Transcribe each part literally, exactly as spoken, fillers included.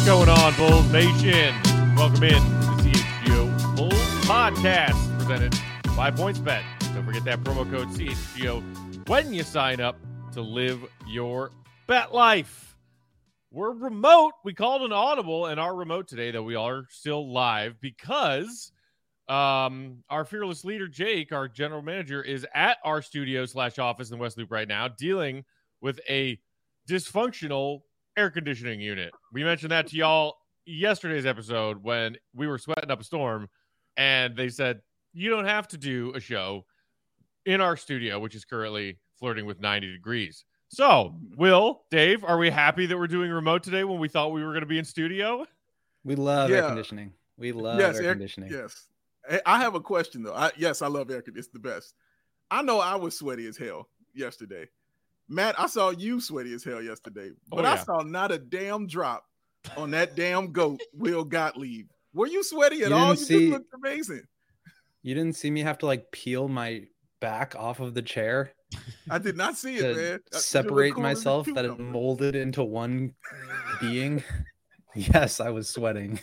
going on, Bulls Nation? Welcome in to the C H G O Bulls Podcast, presented by PointsBet. Don't forget that promo code C H G O when you sign up to live your bet life. We're remote. We called an audible and our remote today, though we are still live because um, our fearless leader, Jake, our general manager, is at our studio slash office in West Loop right now, dealing with a dysfunctional air conditioning unit. We mentioned that to y'all yesterday's episode when we were sweating up a storm, and they said, you don't have to do a show in our studio, which is currently flirting with ninety degrees. So, Will, Dave, are we happy that we're doing remote today when we thought we were going to be in studio? We love yeah. air conditioning. We love yes, air, air conditioning. Yes. I have a question, though. I, yes, I love air conditioning. It's the best. I know I was sweaty as hell yesterday. Matt, I saw you sweaty as hell yesterday, but oh, yeah. I saw not a damn drop on that damn goat, Will Gottlieb. Were you sweaty at you all? You see, just looked amazing. You didn't see me have to like peel my back off of the chair? I did not see it, man. Separate myself that it molded into one being. Yes, I was sweating.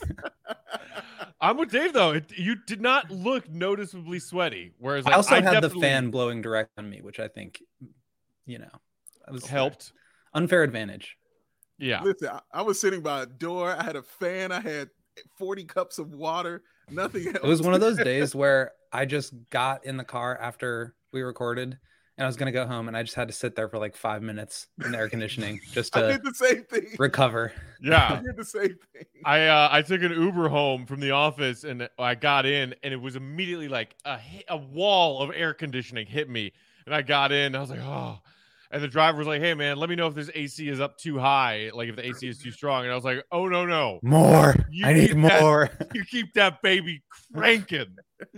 I'm with Dave, though. It, you did not look noticeably sweaty. Whereas like, I also I had definitely... the fan blowing direct on me, which I think, you know, I was helped. Unfair advantage. Yeah. Listen, I, I was sitting by a door. I had a fan. I had forty cups of water. Nothing else. It was one of those days where I just got in the car after we recorded and I was going to go home and I just had to sit there for like five minutes in the air conditioning just to I did the same thing. recover. Yeah. I did the same thing. I, uh, I took an Uber home from the office and I got in and it was immediately like a, a wall of air conditioning hit me. And I got in and I was like, oh, and the driver was like, hey man, let me know if this A C is up too high. Like if the A C is too strong. And I was like, oh no, no. More. You I need more. That, you keep that baby cranking.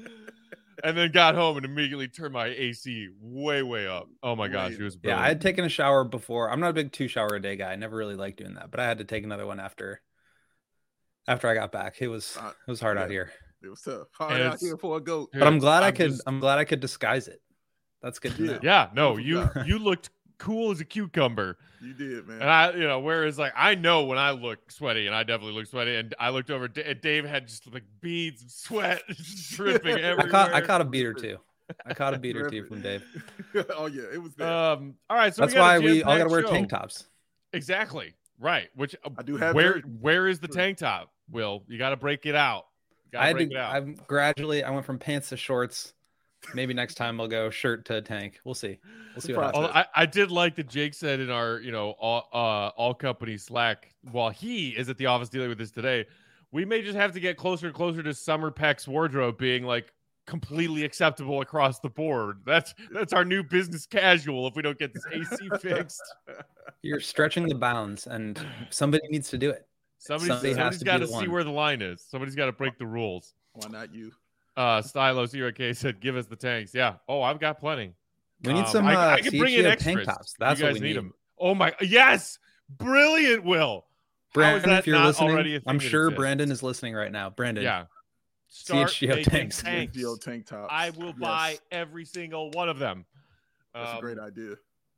And then got home and immediately turned my A C way, way up. Oh my gosh, it was brilliant. Yeah, I had taken a shower before. I'm not a big two shower a day guy. I never really liked doing that, but I had to take another one after after I got back. It was uh, it was hard yeah, out here. It was tough. Hard out here for a goat. But I'm glad I'm I could just... I'm glad I could disguise it. That's good to yeah. know. Yeah, no, you you looked cool as a cucumber. You did, man. And I, you know, whereas like I know when I look sweaty, and I definitely look sweaty, and I looked over, and Dave had just like beads of sweat dripping everywhere. I caught I caught a beat or two. I caught a beat or two from Dave. Oh yeah, it was there. Um, all right, so that's we why we all got to wear show. tank tops. Exactly right. Which I do have. Where very- where is the tank top? Will you got to break it out? I had to. I'm gradually. I went from pants to shorts. Maybe next time I'll go shirt to tank. We'll see. We'll see what happens. I, I did like that Jake said in our, you know, all, uh, all company Slack, while he is at the office dealing with this today, we may just have to get closer and closer to Summer Peck's wardrobe being like completely acceptable across the board. That's that's our new business casual if we don't get this A C fixed. You're stretching the bounds and somebody needs to do it. Somebody's, somebody somebody's got to see one. where the line is. Somebody's got to break the rules. Why not you? Uh, Stylo Zero K said, "Give us the tanks." Yeah. Oh, I've got plenty. We need um, some. Uh, I, I can bring in extras. Tank tops. That's you guys what we need need them. Oh my! Yes, brilliant, Will. Brandon, if you're listening, I'm sure Brandon is listening right now. Brandon, yeah. Start C H G O tanks. tanks. C H G O tank tops. I will yes. buy every single one of them. That's um, a great idea.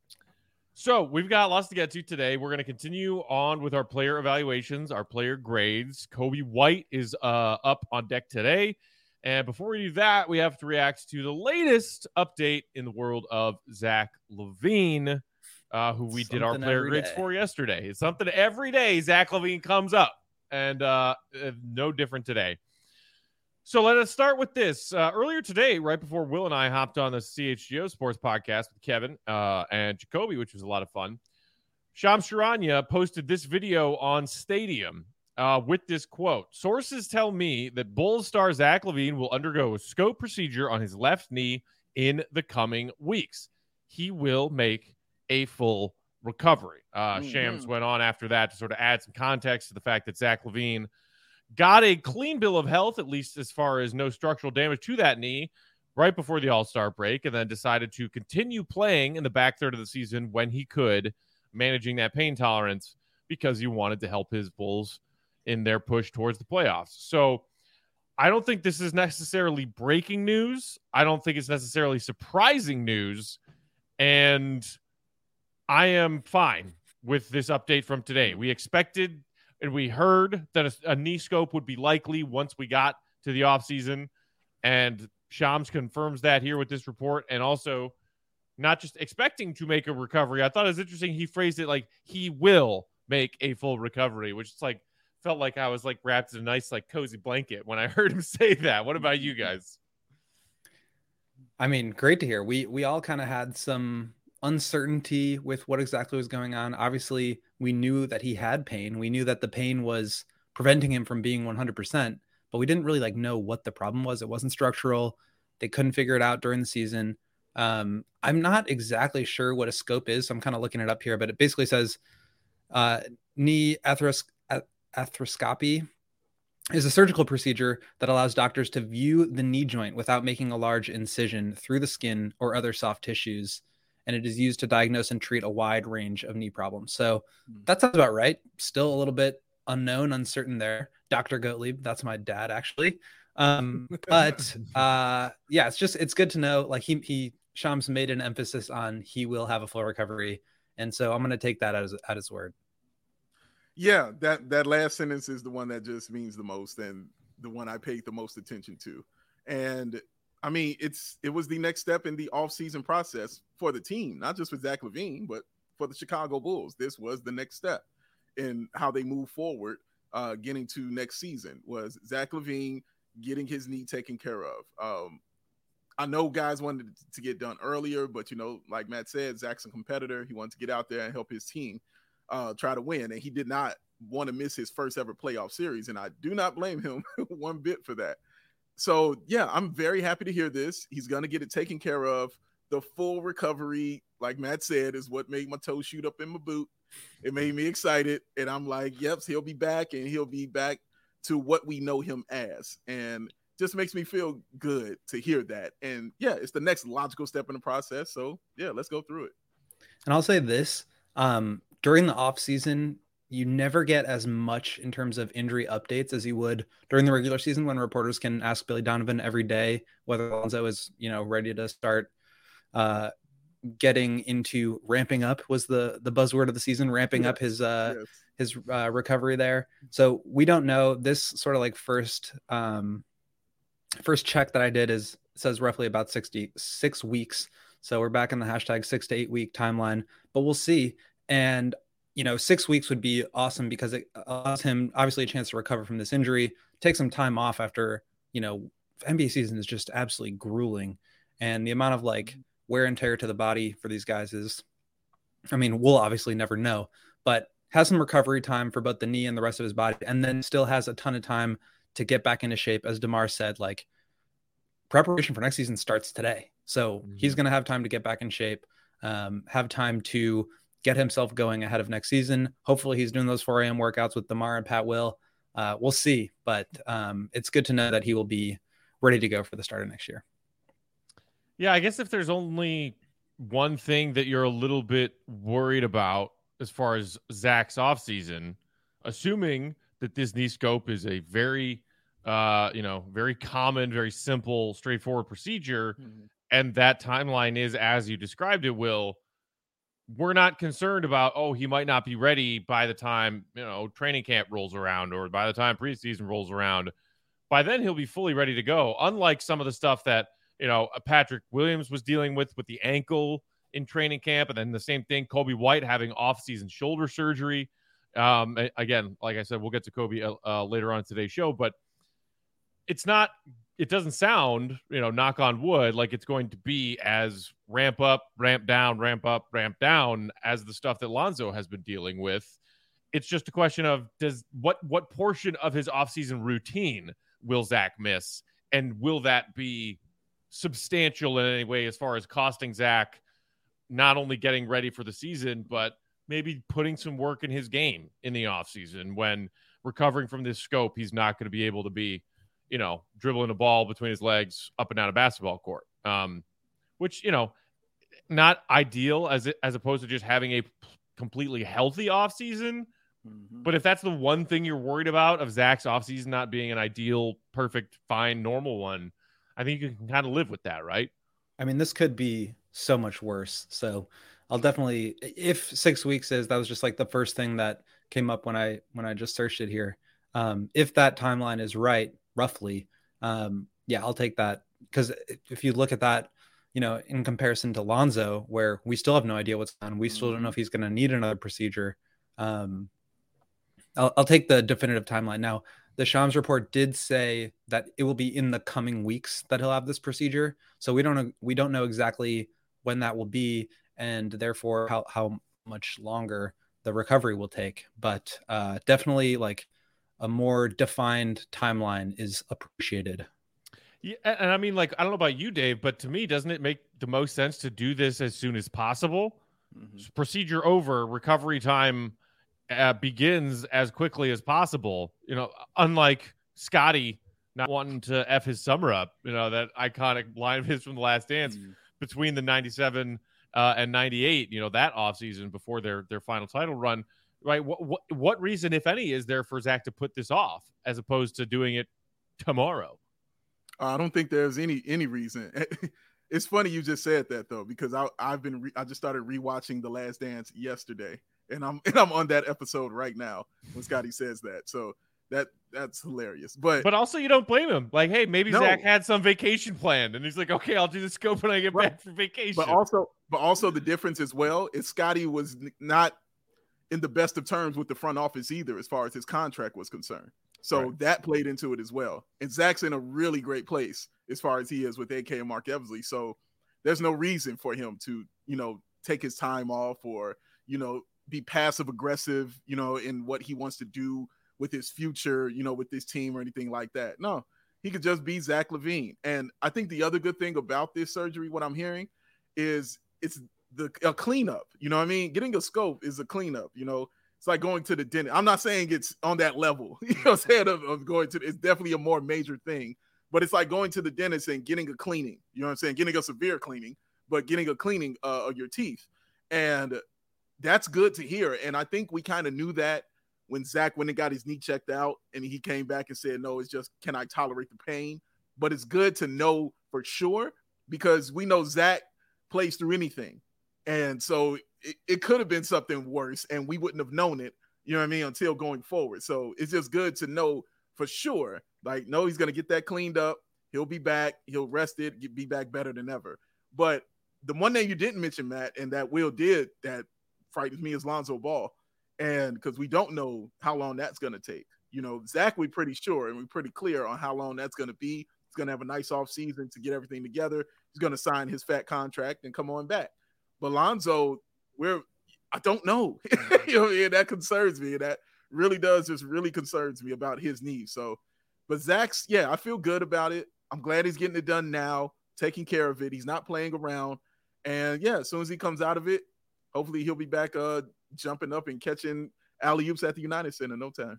So we've got lots to get to today. We're going to continue on with our player evaluations, our player grades. Kobe White is uh, up on deck today. And before we do that, we have to react to the latest update in the world of Zach LaVine, uh, who we something did our player grades day. for yesterday. It's something every day Zach LaVine comes up, and uh, no different today. So let us start with this. Uh, earlier today, right before Will and I hopped on the C H G O Sports podcast with Kevin uh, and Jacoby, which was a lot of fun, Shams Charania posted this video on Stadium. Uh, with this quote, sources tell me that Bulls star Zach LaVine will undergo a scope procedure on his left knee in the coming weeks. He will make a full recovery. Uh, mm-hmm. Shams went on after that to sort of add some context to the fact that Zach LaVine got a clean bill of health, at least as far as no structural damage to that knee, right before the All-Star break, and then decided to continue playing in the back third of the season when he could, managing that pain tolerance because he wanted to help his Bulls in their push towards the playoffs. So I don't think this is necessarily breaking news. I don't think it's necessarily surprising news. And I am fine with this update from today. We expected and we heard that a, a knee scope would be likely once we got to the offseason. And Shams confirms that here with this report, and also not just expecting to make a recovery. I thought it was interesting. He phrased it like he will make a full recovery, which is like felt like I was like wrapped in a nice like cozy blanket when I heard him say that. What about you guys? I mean, great to hear. We we all kind of had some uncertainty with what exactly was going on. Obviously, we knew that he had pain. We knew that the pain was preventing him from being one hundred percent, but we didn't really like know what the problem was. It wasn't structural. They couldn't figure it out during the season. Um, I'm not exactly sure what a scope is, so I'm kind of looking it up here, but it basically says uh, knee atheros- arthroscopy is a surgical procedure that allows doctors to view the knee joint without making a large incision through the skin or other soft tissues. And it is used to diagnose and treat a wide range of knee problems. So that sounds about right. Still a little bit unknown, uncertain there. Doctor Gottlieb, that's my dad, actually. Um, but uh, yeah, it's just, it's good to know. Like he, he, Shams made an emphasis on he will have a full recovery. And so I'm going to take that as, at his word. Yeah, that, that last sentence is the one that just means the most and the one I paid the most attention to. And I mean, it's it was the next step in the offseason process for the team, not just for Zach LaVine, but for the Chicago Bulls. This was the next step in how they move forward, uh, getting to next season, was Zach LaVine getting his knee taken care of. Um, I know guys wanted to get done earlier, but, you know, like Matt said, Zach's a competitor. He wanted to get out there and help his team uh, try to win, and he did not want to miss his first ever playoff series, and I do not blame him one bit for that. So, yeah, I'm very happy to hear this. He's going to get it taken care of. The full recovery, like Matt said, is what made my toe shoot up in my boot. It made me excited, and I'm like, yep, he'll be back, and he'll be back to what we know him as, and just makes me feel good to hear that. And, yeah, it's the next logical step in the process, so, yeah, let's go through it. And I'll say this, um, during the offseason, you never get as much in terms of injury updates as you would during the regular season when reporters can ask Billy Donovan every day whether Lonzo is, you know, ready to start uh, getting into ramping up was the the buzzword of the season, ramping yes. up his uh, yes. his uh, recovery there. So we don't know. This sort of like first um, first check that I did is says roughly about sixty six weeks. So we're back in the hashtag six to eight week timeline, but we'll see. And you know, six weeks would be awesome because it allows him obviously a chance to recover from this injury, take some time off after, you know, N B A season is just absolutely grueling. And the amount of like wear and tear to the body for these guys is, I mean, we'll obviously never know, but has some recovery time for both the knee and the rest of his body. And then still has a ton of time to get back into shape. As DeMar said, like preparation for next season starts today. So mm-hmm. he's going to have time to get back in shape, um, have time to get himself going ahead of next season. Hopefully he's doing those four a.m. workouts with DeMar and Pat Will. Uh, we'll see, but um, it's good to know that he will be ready to go for the start of next year. Yeah, I guess if there's only one thing that you're a little bit worried about as far as Zach's offseason, assuming that this knee scope is a very, uh, you know, very common, very simple, straightforward procedure, mm-hmm. and that timeline is as you described it, Will, we're not concerned about, oh, he might not be ready by the time, you know, training camp rolls around or by the time preseason rolls around. By then, he'll be fully ready to go. Unlike some of the stuff that, you know, Patrick Williams was dealing with with the ankle in training camp. And then the same thing, Coby White having off-season shoulder surgery. Um, again, like I said, we'll get to Coby uh, later on in today's show, but it's not, it doesn't sound, you know, knock on wood, like it's going to be as ramp up, ramp down, ramp up, ramp down as the stuff that Lonzo has been dealing with. It's just a question of does what what portion of his offseason routine will Zach miss, and will that be substantial in any way as far as costing Zach not only getting ready for the season, but maybe putting some work in his game in the offseason when recovering from this scope, he's not going to be able to be, you know, dribbling a ball between his legs up and down a basketball court, um, which, you know, not ideal as it, as opposed to just having a completely healthy offseason. Mm-hmm. But if that's the one thing you're worried about of Zach's offseason not being an ideal, perfect, fine, normal one, I think you can kind of live with that, right? I mean, this could be so much worse. So I'll definitely, if six weeks is, that was just like the first thing that came up when I when I just searched it here. Um, if that timeline is right, roughly, um, yeah, I'll take that, because if you look at that, you know, in comparison to Lonzo, where we still have no idea what's on, we still mm-hmm. don't know if he's going to need another procedure. Um, I'll, I'll take the definitive timeline. Now, the Shams report did say that it will be in the coming weeks that he'll have this procedure. So we don't know, we don't know exactly when that will be, and therefore how, how much longer the recovery will take. But uh, definitely, like, a more defined timeline is appreciated. Yeah, and I mean, like, I don't know about you, Dave, but to me, doesn't it make the most sense to do this as soon as possible? Mm-hmm. Procedure over, recovery time uh, begins as quickly as possible. You know, unlike Scotty not wanting to F his summer up, you know, that iconic line of his from The Last Dance mm-hmm. between the ninety-seven uh, and ninety-eight, you know, that offseason before their, their final title run, right? What, what, what reason, if any, is there for Zach to put this off as opposed to doing it tomorrow? I don't think there's any any reason. It's funny you just said that, though, because I I've been re- I just started rewatching The Last Dance yesterday, and I'm and I'm on that episode right now when Scotty says that. So that that's hilarious. But but also, you don't blame him. Like, hey, maybe no. Zach had some vacation planned, and he's like, okay, I'll do the scope when I get right. back from vacation. But also, but also the difference as well is Scotty was not in the best of terms with the front office either, as far as his contract was concerned. So right. that played into it as well. And Zach's in a really great place as far as he is with A K and Mark Eversley. So there's no reason for him to, you know, take his time off or, you know, be passive aggressive, you know, in what he wants to do with his future, you know, with this team or anything like that. No, he could just be Zach LaVine. And I think the other good thing about this surgery, what I'm hearing, is it's the a cleanup. You know what I mean? Getting a scope is a cleanup, you know. It's like going to the dentist. I'm not saying it's on that level, you know what I'm saying, of, of going to, it's definitely a more major thing, but it's like going to the dentist and getting a cleaning, you know what I'm saying? Getting a severe cleaning, but getting a cleaning uh, of your teeth. And that's good to hear. And I think we kind of knew that when Zach went and got his knee checked out and he came back and said, no, it's just, can I tolerate the pain? But it's good to know for sure, because we know Zach plays through anything. And so it, it could have been something worse and we wouldn't have known it, you know what I mean, until going forward. So it's just good to know for sure, like, no, he's going to get that cleaned up. He'll be back. He'll rest it, get, be back better than ever. But the one thing you didn't mention, Matt, and that Will did that frightens me is Lonzo Ball. And because we don't know how long that's going to take. You know, Zach, we're pretty sure and we're pretty clear on how long that's going to be. He's going to have a nice off season to get everything together. He's going to sign his fat contract and come on back. But Lonzo, we're I don't know. You know, and that concerns me. And that really does just really concerns me about his knee. So, but Zach's, yeah, I feel good about it. I'm glad he's getting it done now, taking care of it. He's not playing around. And yeah, as soon as he comes out of it, hopefully he'll be back uh, jumping up and catching alley-oops at the United Center in no time.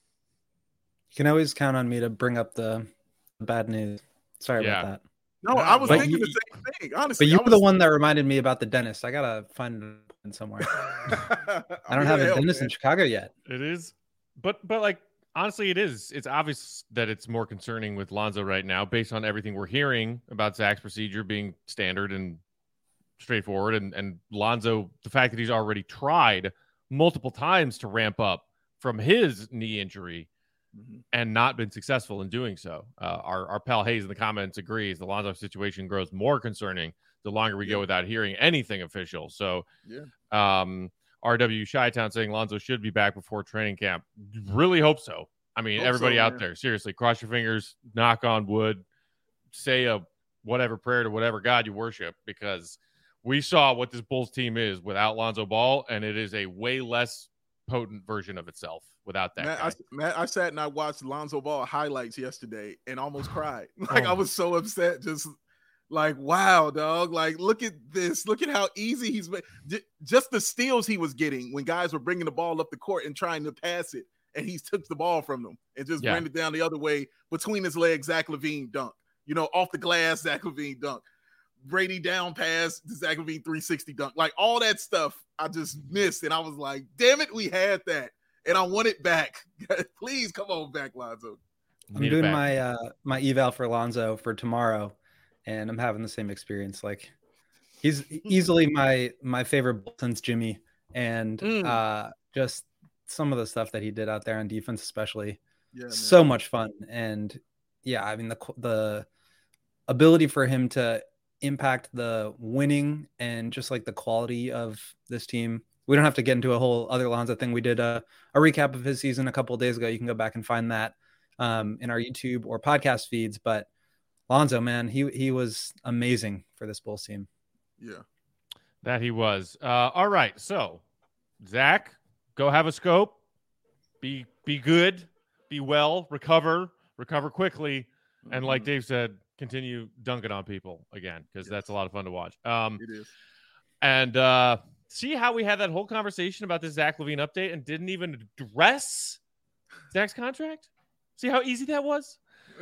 You can always count on me to bring up the bad news. Sorry yeah. about that. No, I was but thinking you, the same thing, honestly. But you I were the one that reminded me about the dentist. I got to find it somewhere. I don't have a help, dentist man. in Chicago yet. It is. But, but like, honestly, it is. It's obvious that it's more concerning with Lonzo right now based on everything we're hearing about Zach's procedure being standard and straightforward. And, and Lonzo, the fact that he's already tried multiple times to ramp up from his knee injury mm-hmm. and not been successful in doing so. Uh, our, our pal Hayes in the comments agrees the Lonzo situation grows more concerning the longer we yeah. go without hearing anything official. So, yeah. um, R W Chi-Town saying Lonzo should be back before training camp. Really hope so. I mean, hope everybody so, out there, seriously, cross your fingers, knock on wood, say a whatever prayer to whatever God you worship, because we saw what this Bulls team is without Lonzo Ball, and it is a way less potent version of itself without that. Matt, I, Matt, I sat and I watched Lonzo Ball highlights yesterday and almost cried. Like, oh. I was so upset. Just like, wow, dog. Like, look at this. Look at how easy he's made. Just the steals he was getting when guys were bringing the ball up the court and trying to pass it, and he took the ball from them and just yeah. ran it down the other way between his legs. Zach LaVine dunk. You know, off the glass, Zach LaVine dunk. Brady down pass, Zach LaVine three sixty dunk. Like, all that stuff I just missed, and I was like, damn it, we had that. And I want it back. Please come on back, Lonzo. I'm doing my uh, my eval for Lonzo for tomorrow, and I'm having the same experience. Like, he's easily my my favorite since Jimmy, and mm. uh, just some of the stuff that he did out there on defense, especially, yeah, so man. much fun. And yeah, I mean, the the ability for him to impact the winning and just like the quality of this team. We don't have to get into a whole other Lonzo thing. We did a, a recap of his season a couple of days ago. You can go back and find that um, in our YouTube or podcast feeds. But Lonzo, man, he he was amazing for this Bulls team. Yeah, that he was. Uh, all right, so Zach, go have a scope. Be be good. Be well. Recover. Recover quickly. Mm-hmm. And like Dave said, continue dunking on people again because yes. that's a lot of fun to watch. Um, it is. And uh, see how we had that whole conversation about this Zach LaVine update and didn't even address Zach's contract? See how easy that was?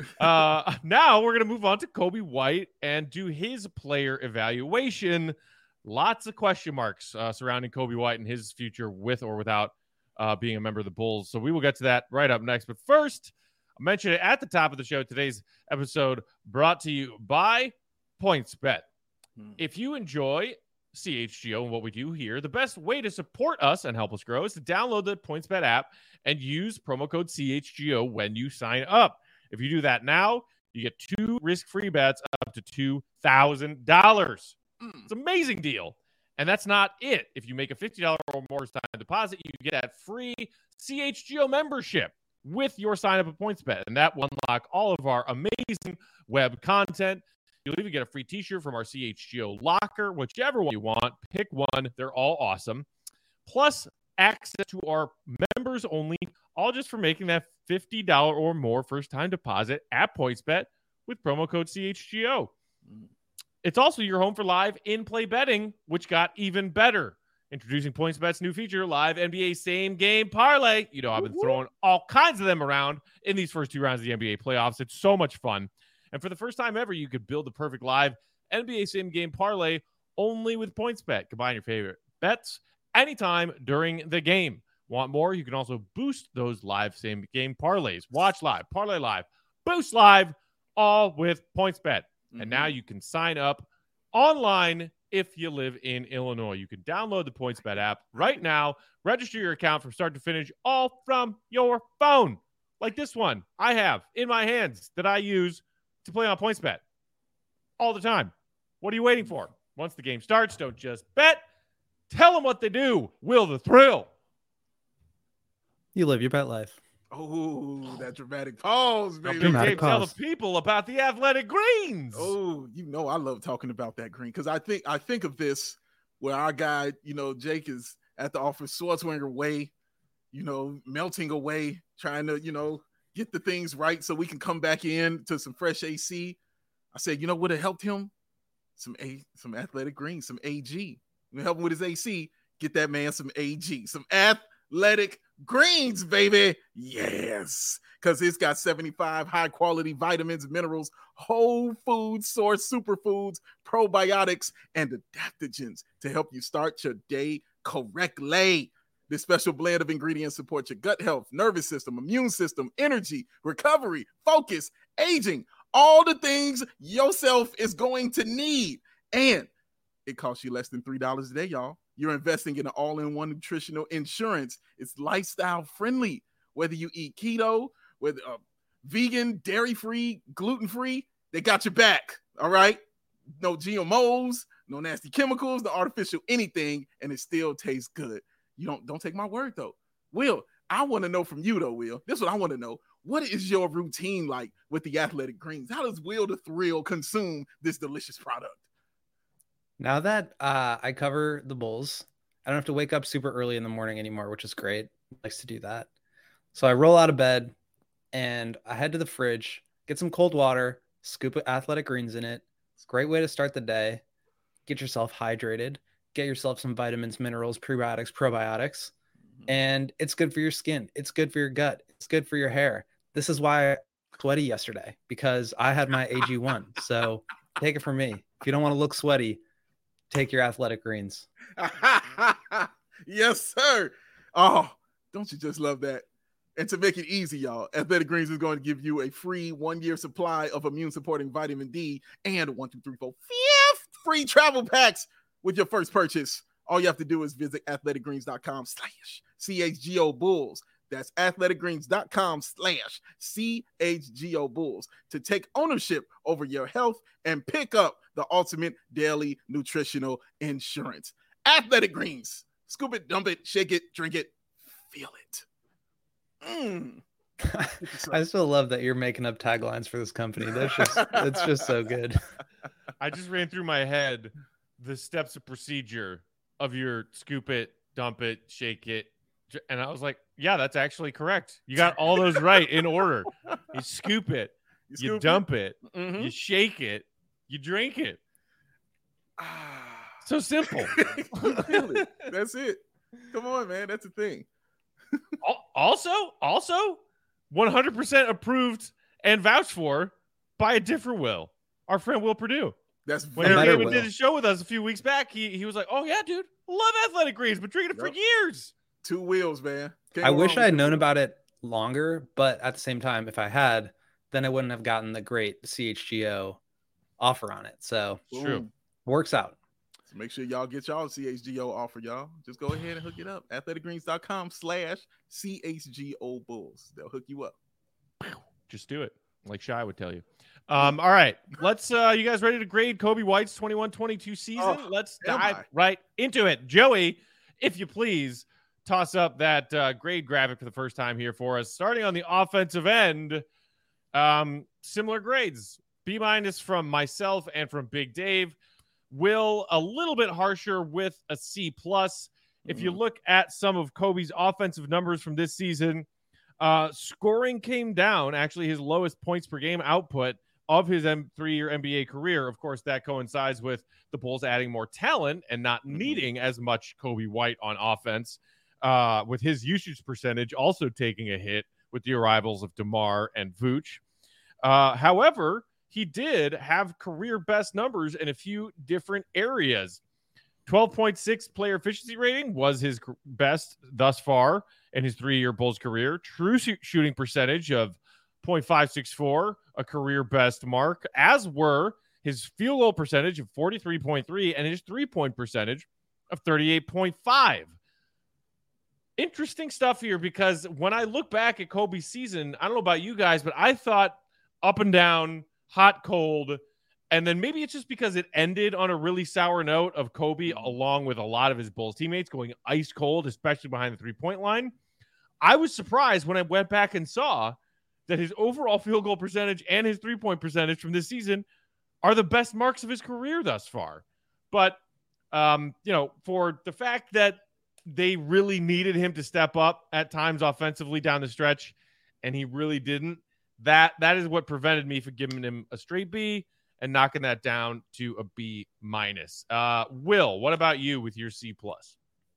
Uh, now we're going to move on to Coby White and do his player evaluation. Lots of question marks uh, surrounding Coby White and his future with or without uh, being a member of the Bulls. So we will get to that right up next. But first, I mentioned it at the top of the show. Today's episode brought to you by PointsBet. Hmm. If you enjoy C H G O and what we do here, the best way to support us and help us grow is to download the PointsBet app and use promo code C H G O when you sign up. If you do that now, you get two risk-free bets up to two thousand dollars. Mm. It's an amazing deal. And that's not it. If you make a fifty dollars or more time deposit, you get that free C H G O membership with your sign up at PointsBet. And that will unlock all of our amazing web content. You'll even get a free t-shirt from our C H G O locker, whichever one you want. Pick one. They're all awesome. Plus access to our members only, all just for making that fifty dollars or more first time deposit at PointsBet with promo code C H G O. It's also your home for live in-play betting, which got even better. Introducing PointsBet's new feature, live N B A same game parlay. You know, I've been throwing all kinds of them around in these first two rounds of the N B A playoffs. It's so much fun. And for the first time ever, you could build the perfect live N B A same game parlay only with PointsBet. Combine your favorite bets anytime during the game. Want more? You can also boost those live same game parlays. Watch live, parlay live, boost live, all with PointsBet. Mm-hmm. And now you can sign up online if you live in Illinois. You can download the PointsBet app right now, register your account from start to finish, all from your phone. Like this one I have in my hands that I use to play on PointsBet all the time. What are you waiting for? Once the game starts, don't just bet. Tell them what they do. Will the thrill. You live your bet life. Oh, that dramatic pause, baby. Dramatic pause. Tell the people about the Athletic Greens. Oh, you know I love talking about that green because I think I think of this where our guy, you know, Jake is at the office, Schwarzenegger way, you know, melting away, trying to, you know, get the things right so we can come back in to some fresh A C. I said, you know what would have helped him? Some A, some Athletic Greens, some A G. We help him with his A C. Get that man some A G, some Athletic Greens, baby. Yes, because it's got seventy-five high quality vitamins, minerals, whole food source superfoods, probiotics, and adaptogens to help you start your day correctly. This special blend of ingredients supports your gut health, nervous system, immune system, energy, recovery, focus, aging, all the things yourself is going to need. And it costs you less than three dollars a day, y'all. You're investing in an all-in-one nutritional insurance. It's lifestyle friendly. Whether you eat keto, whether uh, vegan, dairy-free, gluten-free, they got your back, all right? No G M Os, no nasty chemicals, no artificial anything, and it still tastes good. You don't, don't take my word, though. Will, I want to know from you, though, Will. This is what I want to know. What is your routine like with the Athletic Greens? How does Will the Thrill consume this delicious product? Now that uh, I cover the Bulls, I don't have to wake up super early in the morning anymore, which is great. Likes to do that. So I roll out of bed and I head to the fridge, get some cold water, scoop of Athletic Greens in it. It's a great way to start the day. Get yourself hydrated, get yourself some vitamins, minerals, prebiotics, probiotics, and it's good for your skin. It's good for your gut. It's good for your hair. This is why I was sweaty yesterday, because I had my A G one. So take it from me. If you don't want to look sweaty, take your Athletic Greens. Yes, sir. Oh, don't you just love that? And to make it easy, y'all, Athletic Greens is going to give you a free one-year supply of immune-supporting vitamin D and one, two, three, four, fifth free travel packs with your first purchase. all you have to do is visit athleticgreens.com slash CHGO Bulls. That's athleticgreens.com slash CHGO Bulls to take ownership over your health and pick up the ultimate daily nutritional insurance. Athletic Greens. Scoop it, dump it, shake it, drink it, feel it. Mm. I still love that you're making up taglines for this company. That's just, it's just so good. I just ran through my head the steps of procedure of your scoop it, dump it, shake it. And I was like, yeah, that's actually correct. You got all those right in order. You scoop it, you, you dump it, it mm-hmm. you shake it, you drink it. So simple. it. That's it. Come on, man. That's the thing. also, also one hundred percent approved and vouched for by a different Will, our friend Will Purdue. That's when David did a show with us a few weeks back. He he was like, "Oh yeah, dude, love Athletic Greens, been drinking it yep. for years." Two wheels, man. Can't I wish I had known about it longer, but at the same time, if I had, then I wouldn't have gotten the great C H G O offer on it. So true, works out. So make sure y'all get y'all C H G O offer, y'all. Just go ahead and hook it up. athleticgreens.com slash CHGO Bulls. They'll hook you up. Just do it, like Shy would tell you. Um, all right, let's. Uh, you guys ready to grade Coby White's twenty-one twenty-two season? Oh, let's dive right into it. Joey, if you please, toss up that uh, grade graphic for the first time here for us. Starting on the offensive end, um, similar grades. B minus from myself and from Big Dave. Will a little bit harsher with a C plus. Mm-hmm. If you look at some of Coby's offensive numbers from this season, uh, scoring came down. Actually, his lowest points per game output of his M- three-year N B A career. Of course, that coincides with the Bulls adding more talent and not needing as much Coby White on offense, uh, with his usage percentage also taking a hit with the arrivals of DeMar and Vooch. Uh, however, he did have career best numbers in a few different areas. twelve point six player efficiency rating was his best thus far in his three-year Bulls career. True sh- shooting percentage of point five six four, a career best mark, as were his field goal percentage of forty-three point three and his three-point percentage of thirty-eight point five. Interesting stuff here, because when I look back at Coby's season, I don't know about you guys, but I thought up and down, hot, cold, and then maybe it's just because it ended on a really sour note of Coby, along with a lot of his Bulls teammates, going ice cold, especially behind the three-point line. I was surprised when I went back and saw that his overall field goal percentage and his three-point percentage from this season are the best marks of his career thus far. But, um, you know, for the fact that they really needed him to step up at times offensively down the stretch, and he really didn't, that that is what prevented me from giving him a straight B and knocking that down to a B minus. Uh, Will, what about you with your C plus?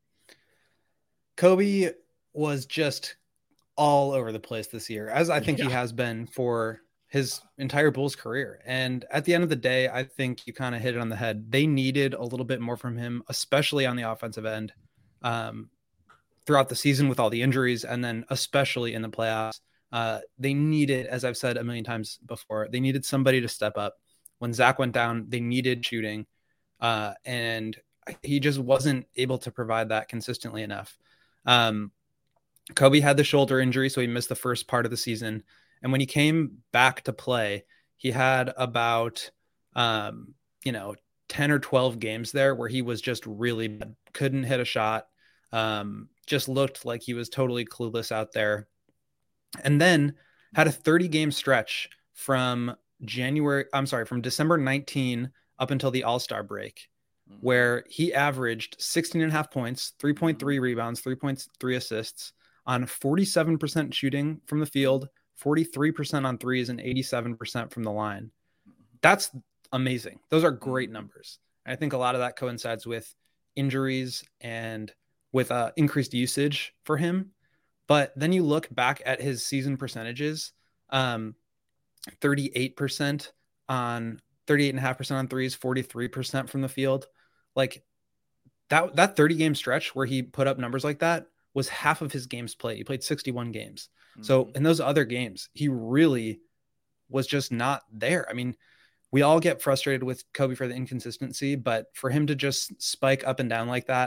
Coby was just all over the place this year, as I think yeah. he has been for his entire Bulls career. And at the end of the day, I think you kind of hit it on the head. They needed a little bit more from him, especially on the offensive end, um, throughout the season with all the injuries, and then especially in the playoffs. Uh, they needed, as I've said a million times before, they needed somebody to step up. When Zach went down, they needed shooting, uh, and he just wasn't able to provide that consistently enough. Um, Coby had the shoulder injury, so he missed the first part of the season. And when he came back to play, he had about, um, you know, ten or twelve games there where he was just really bad. Couldn't hit a shot, um, just looked like he was totally clueless out there. And then had a thirty game stretch from January, I'm sorry, from December nineteenth up until the All-Star break, where he averaged sixteen and a half points, three point three rebounds, three point three assists on forty-seven percent shooting from the field, forty-three percent on threes, and eighty-seven percent from the line. That's amazing. Those are great numbers. I think a lot of that coincides with injuries and with uh, increased usage for him. But then you look back at his season percentages, um, thirty-eight percent on thirty-eight and a half percent on threes, forty-three percent from the field. Like that, that thirty game stretch where he put up numbers like that was half of his games played. He played sixty-one games. Mm-hmm. So in those other games, he really was just not there. I mean, we all get frustrated with Coby for the inconsistency, but for him to just spike up and down like that,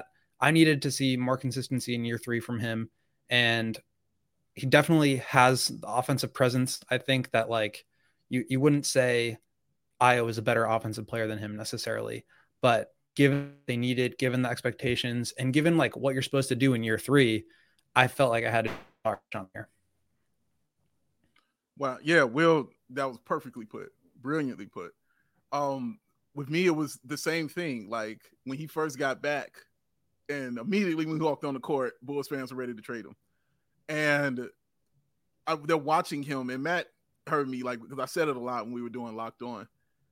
I needed to see more consistency in year three from him. And he definitely has the offensive presence. I think that like you, you wouldn't say Ayo is a better offensive player than him necessarily, but given they needed, given the expectations, and given like what you're supposed to do in year three, I felt like I had to start on there. Wow. Yeah, Will, that was perfectly put, brilliantly put. Um, with me, it was the same thing. Like when he first got back and immediately when he walked on the court, Bulls fans were ready to trade him. And I, they're watching him, and Matt heard me, like, because I said it a lot when we were doing Locked On.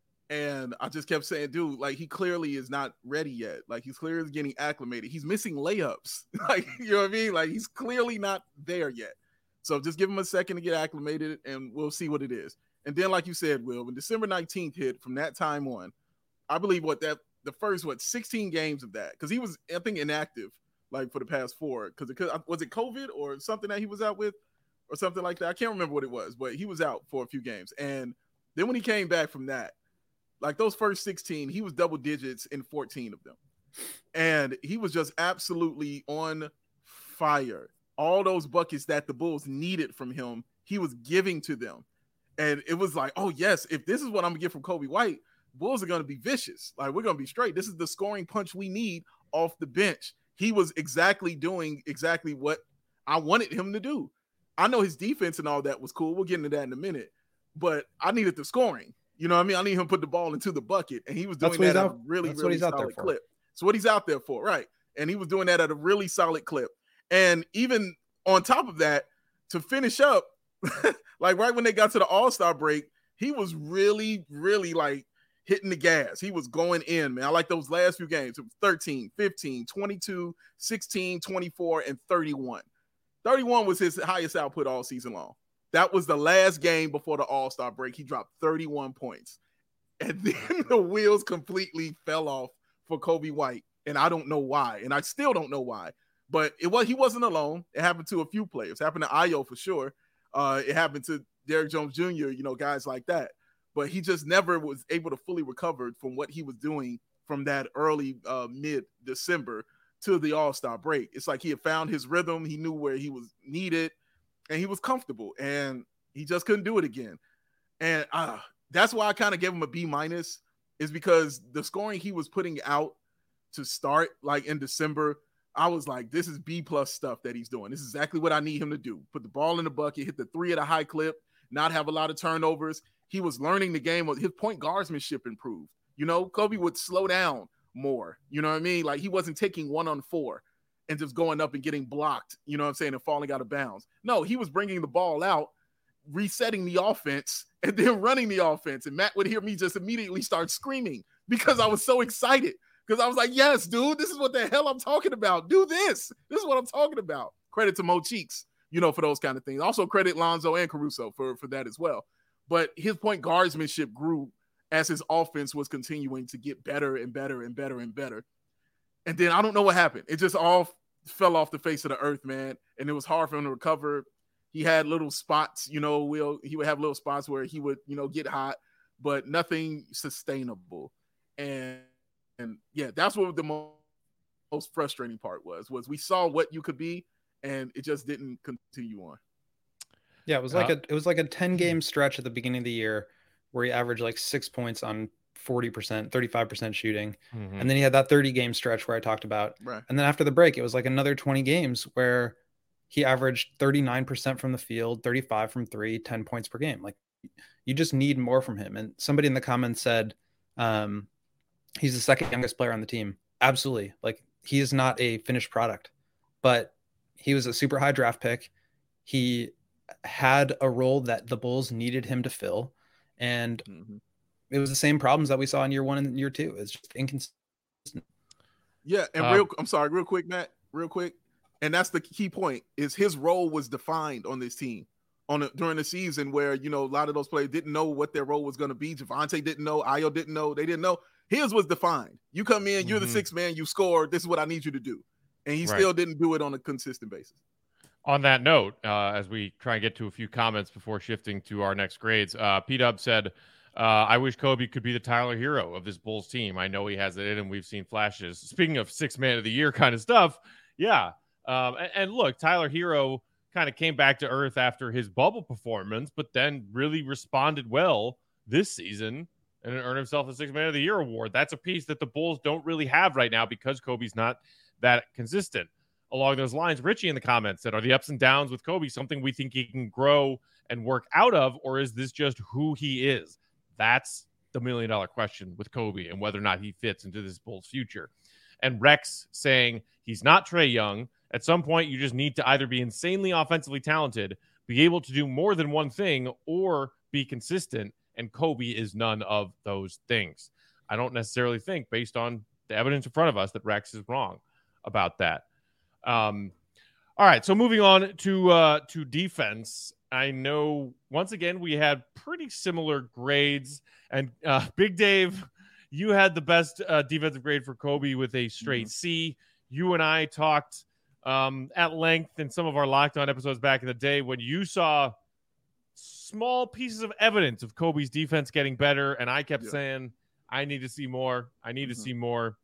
And I just kept saying, dude, like, he clearly is not ready yet. Like, he's clearly getting acclimated. He's missing layups. Like, you know what I mean? Like, he's clearly not there yet. So just give him a second to get acclimated, and we'll see what it is. And then, like you said, Will, when December nineteenth hit, from that time on, I believe what that the first, what, sixteen games of that, because he was, I think, inactive, like, for the past four. Because it, was it COVID or something that he was out with or something like that? I can't remember what it was, but he was out for a few games. And then when he came back from that, like those first sixteen, he was double digits in fourteen of them. And he was just absolutely on fire. All those buckets that the Bulls needed from him, he was giving to them. And it was like, oh, yes, if this is what I'm going to get from Coby White, Bulls are going to be vicious. Like, we're going to be straight. This is the scoring punch we need off the bench. He was exactly doing exactly what I wanted him to do. I know his defense and all that was cool. We'll get into that in a minute. But I needed the scoring. You know what I mean? I need him to put the ball into the bucket. And he was doing that at a really, really solid clip. That's what he's out there for, right? And he was doing that at a really solid clip. And even on top of that, to finish up, like right when they got to the All-Star break, he was really, really like hitting the gas. He was going in, man. I like those last few games. It was thirteen, fifteen, twenty-two, sixteen, twenty-four, and thirty-one. thirty-one was his highest output all season long. That was the last game before the All-Star break. He dropped thirty-one points. And then the wheels completely fell off for Coby White. And I don't know why. And I still don't know why. But it was he wasn't alone. It happened to a few players. It happened to Ayo for sure. Uh, it happened to Derrick Jones Junior, you know, guys like that. But he just never was able to fully recover from what he was doing from that early uh, mid-December to the All-Star break. It's like he had found his rhythm. He knew where he was needed, and he was comfortable. And he just couldn't do it again. And uh, that's why I kind of gave him a B minus, is because the scoring he was putting out to start, like in December, I was like, this is B plus stuff that he's doing. This is exactly what I need him to do. Put the ball in the bucket, hit the three at a high clip, not have a lot of turnovers. He was learning the game. His point guardsmanship improved. You know, Coby would slow down more. You know what I mean? Like, he wasn't taking one on four and just going up and getting blocked, you know what I'm saying, and falling out of bounds. No, he was bringing the ball out, resetting the offense, and then running the offense. And Matt would hear me just immediately start screaming because I was so excited. Because I was like, yes, dude, this is what the hell I'm talking about. Do this. This is what I'm talking about. Credit to Mo Cheeks, you know, for those kind of things. Also credit Lonzo and Caruso for, for that as well. But his point guardsmanship grew as his offense was continuing to get better and better and better and better. And then I don't know what happened. It just all fell off the face of the earth, man. And it was hard for him to recover. He had little spots, you know, will he would have little spots where he would, you know, get hot, but nothing sustainable. And And yeah, that's what the most, most frustrating part was, was we saw what you could be and it just didn't continue on. Yeah, it was like uh, a it was like a ten game stretch at the beginning of the year where he averaged like six points on forty percent, thirty-five percent shooting. Mm-hmm. And then he had that thirty game stretch where I talked about. Right. And then after the break, it was like another twenty games where he averaged thirty-nine percent from the field, thirty-five from three, ten points per game. Like, you just need more from him. And somebody in the comments said, um, he's the second youngest player on the team. Absolutely. Like, he is not a finished product, but he was a super high draft pick. He had a role that the Bulls needed him to fill. And mm-hmm. it was the same problems that we saw in year one and year two. It's just inconsistent. Yeah. And um, real, I'm sorry, real quick, Matt, real quick. And that's the key point, is his role was defined on this team on a, during the season where, you know, a lot of those players didn't know what their role was going to be. Javonte didn't know. Ayo didn't know. They didn't know. His was defined. You come in, you're mm-hmm. the sixth man, you score. This is what I need you to do. And he right. still didn't do it on a consistent basis. On that note, uh, as we try and get to a few comments before shifting to our next grades, uh, P-Dub said, Uh, I wish Kobe could be the Tyler Hero of this Bulls team. I know he has it in, and we've seen flashes. Speaking of six man of the year kind of stuff, yeah. Um, and, and look, Tyler Hero kind of came back to earth after his bubble performance, but then really responded well this season and earned himself a six man of the year award. That's a piece that the Bulls don't really have right now because Kobe's not that consistent. Along those lines, Richie in the comments said, are the ups and downs with Kobe something we think he can grow and work out of, or is this just who he is? That's the million dollar question with Kobe and whether or not he fits into this Bulls future. And Rex saying he's not Trae Young. At some point, you just need to either be insanely offensively talented, be able to do more than one thing, or be consistent. And Kobe is none of those things. I don't necessarily think, based on the evidence in front of us, that Rex is wrong about that. Um, all right, so moving on to uh, to defense. I know, once again, we had pretty similar grades. And uh, Big Dave, you had the best uh, defensive grade for Kobe with a straight mm-hmm. C. You and I talked um, at length in some of our Locked On episodes back in the day when you saw small pieces of evidence of Kobe's defense getting better. And I kept yeah. saying, I need to see more. I need mm-hmm. to see more.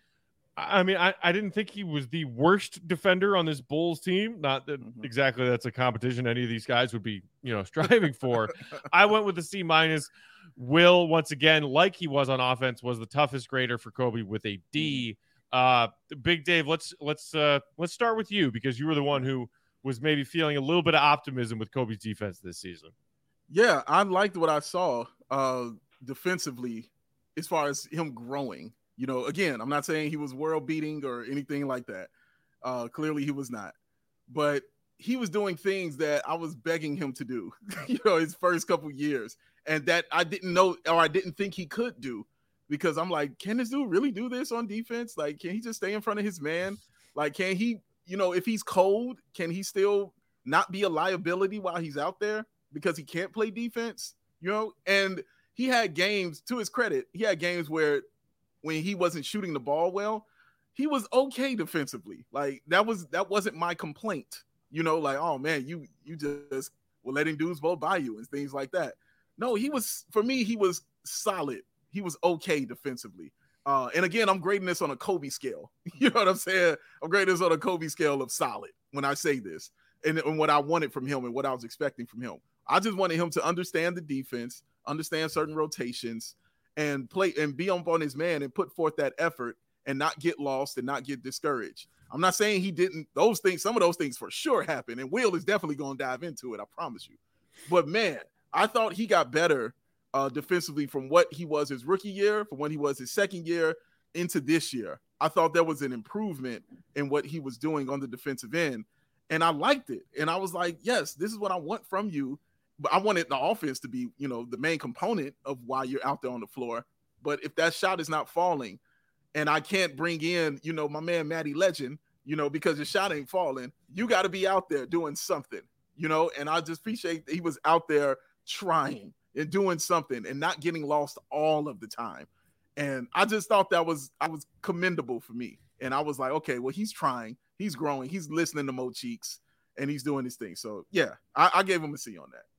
I mean, I, I didn't think he was the worst defender on this Bulls team. Not that mm-hmm. exactly that's a competition any of these guys would be, you know, striving for. I went with the C minus. Will, once again, like he was on offense, was the toughest grader for Kobe with a D. Uh, Big Dave, let's let's uh, let's start with you because you were the one who was maybe feeling a little bit of optimism with Kobe's defense this season. Yeah, I liked what I saw uh, defensively as far as him growing. You know, again, I'm not saying he was world beating or anything like that. Uh, clearly he was not, but he was doing things that I was begging him to do, you know, his first couple years, and that I didn't know, or I didn't think he could do, because I'm like, can this dude really do this on defense? Like, can he just stay in front of his man? Like, can he, you know, if he's cold, can he still not be a liability while he's out there because he can't play defense, you know? And he had games, to his credit, he had games where when he wasn't shooting the ball well, he was okay defensively. Like that was, that wasn't my complaint, you know, like, oh man, you, you just were letting dudes blow by you and things like that. No, he was, for me, he was solid. He was okay defensively. Uh, and again, I'm grading this on a Kobe scale. You know what I'm saying? I'm grading this on a Kobe scale of solid when I say this and, and what I wanted from him and what I was expecting from him. I just wanted him to understand the defense, understand certain rotations, and play and be on, on his man and put forth that effort and not get lost and not get discouraged. I'm not saying he didn't. Those things, some of those things for sure happen. And Will is definitely going to dive into it. I promise you. But man, I thought he got better uh, defensively from what he was his rookie year, from when he was his second year into this year. I thought there was an improvement in what he was doing on the defensive end. And I liked it. And I was like, yes, this is what I want from you. But I wanted the offense to be, you know, the main component of why you're out there on the floor. But if that shot is not falling and I can't bring in, you know, my man, Matty Legend, you know, because the shot ain't falling, you got to be out there doing something, you know, and I just appreciate that he was out there trying and doing something and not getting lost all of the time. And I just thought that was, I was commendable for me. And I was like, okay, well, he's trying, he's growing, he's listening to Mo Cheeks and he's doing his thing. So yeah, I, I gave him a C on that.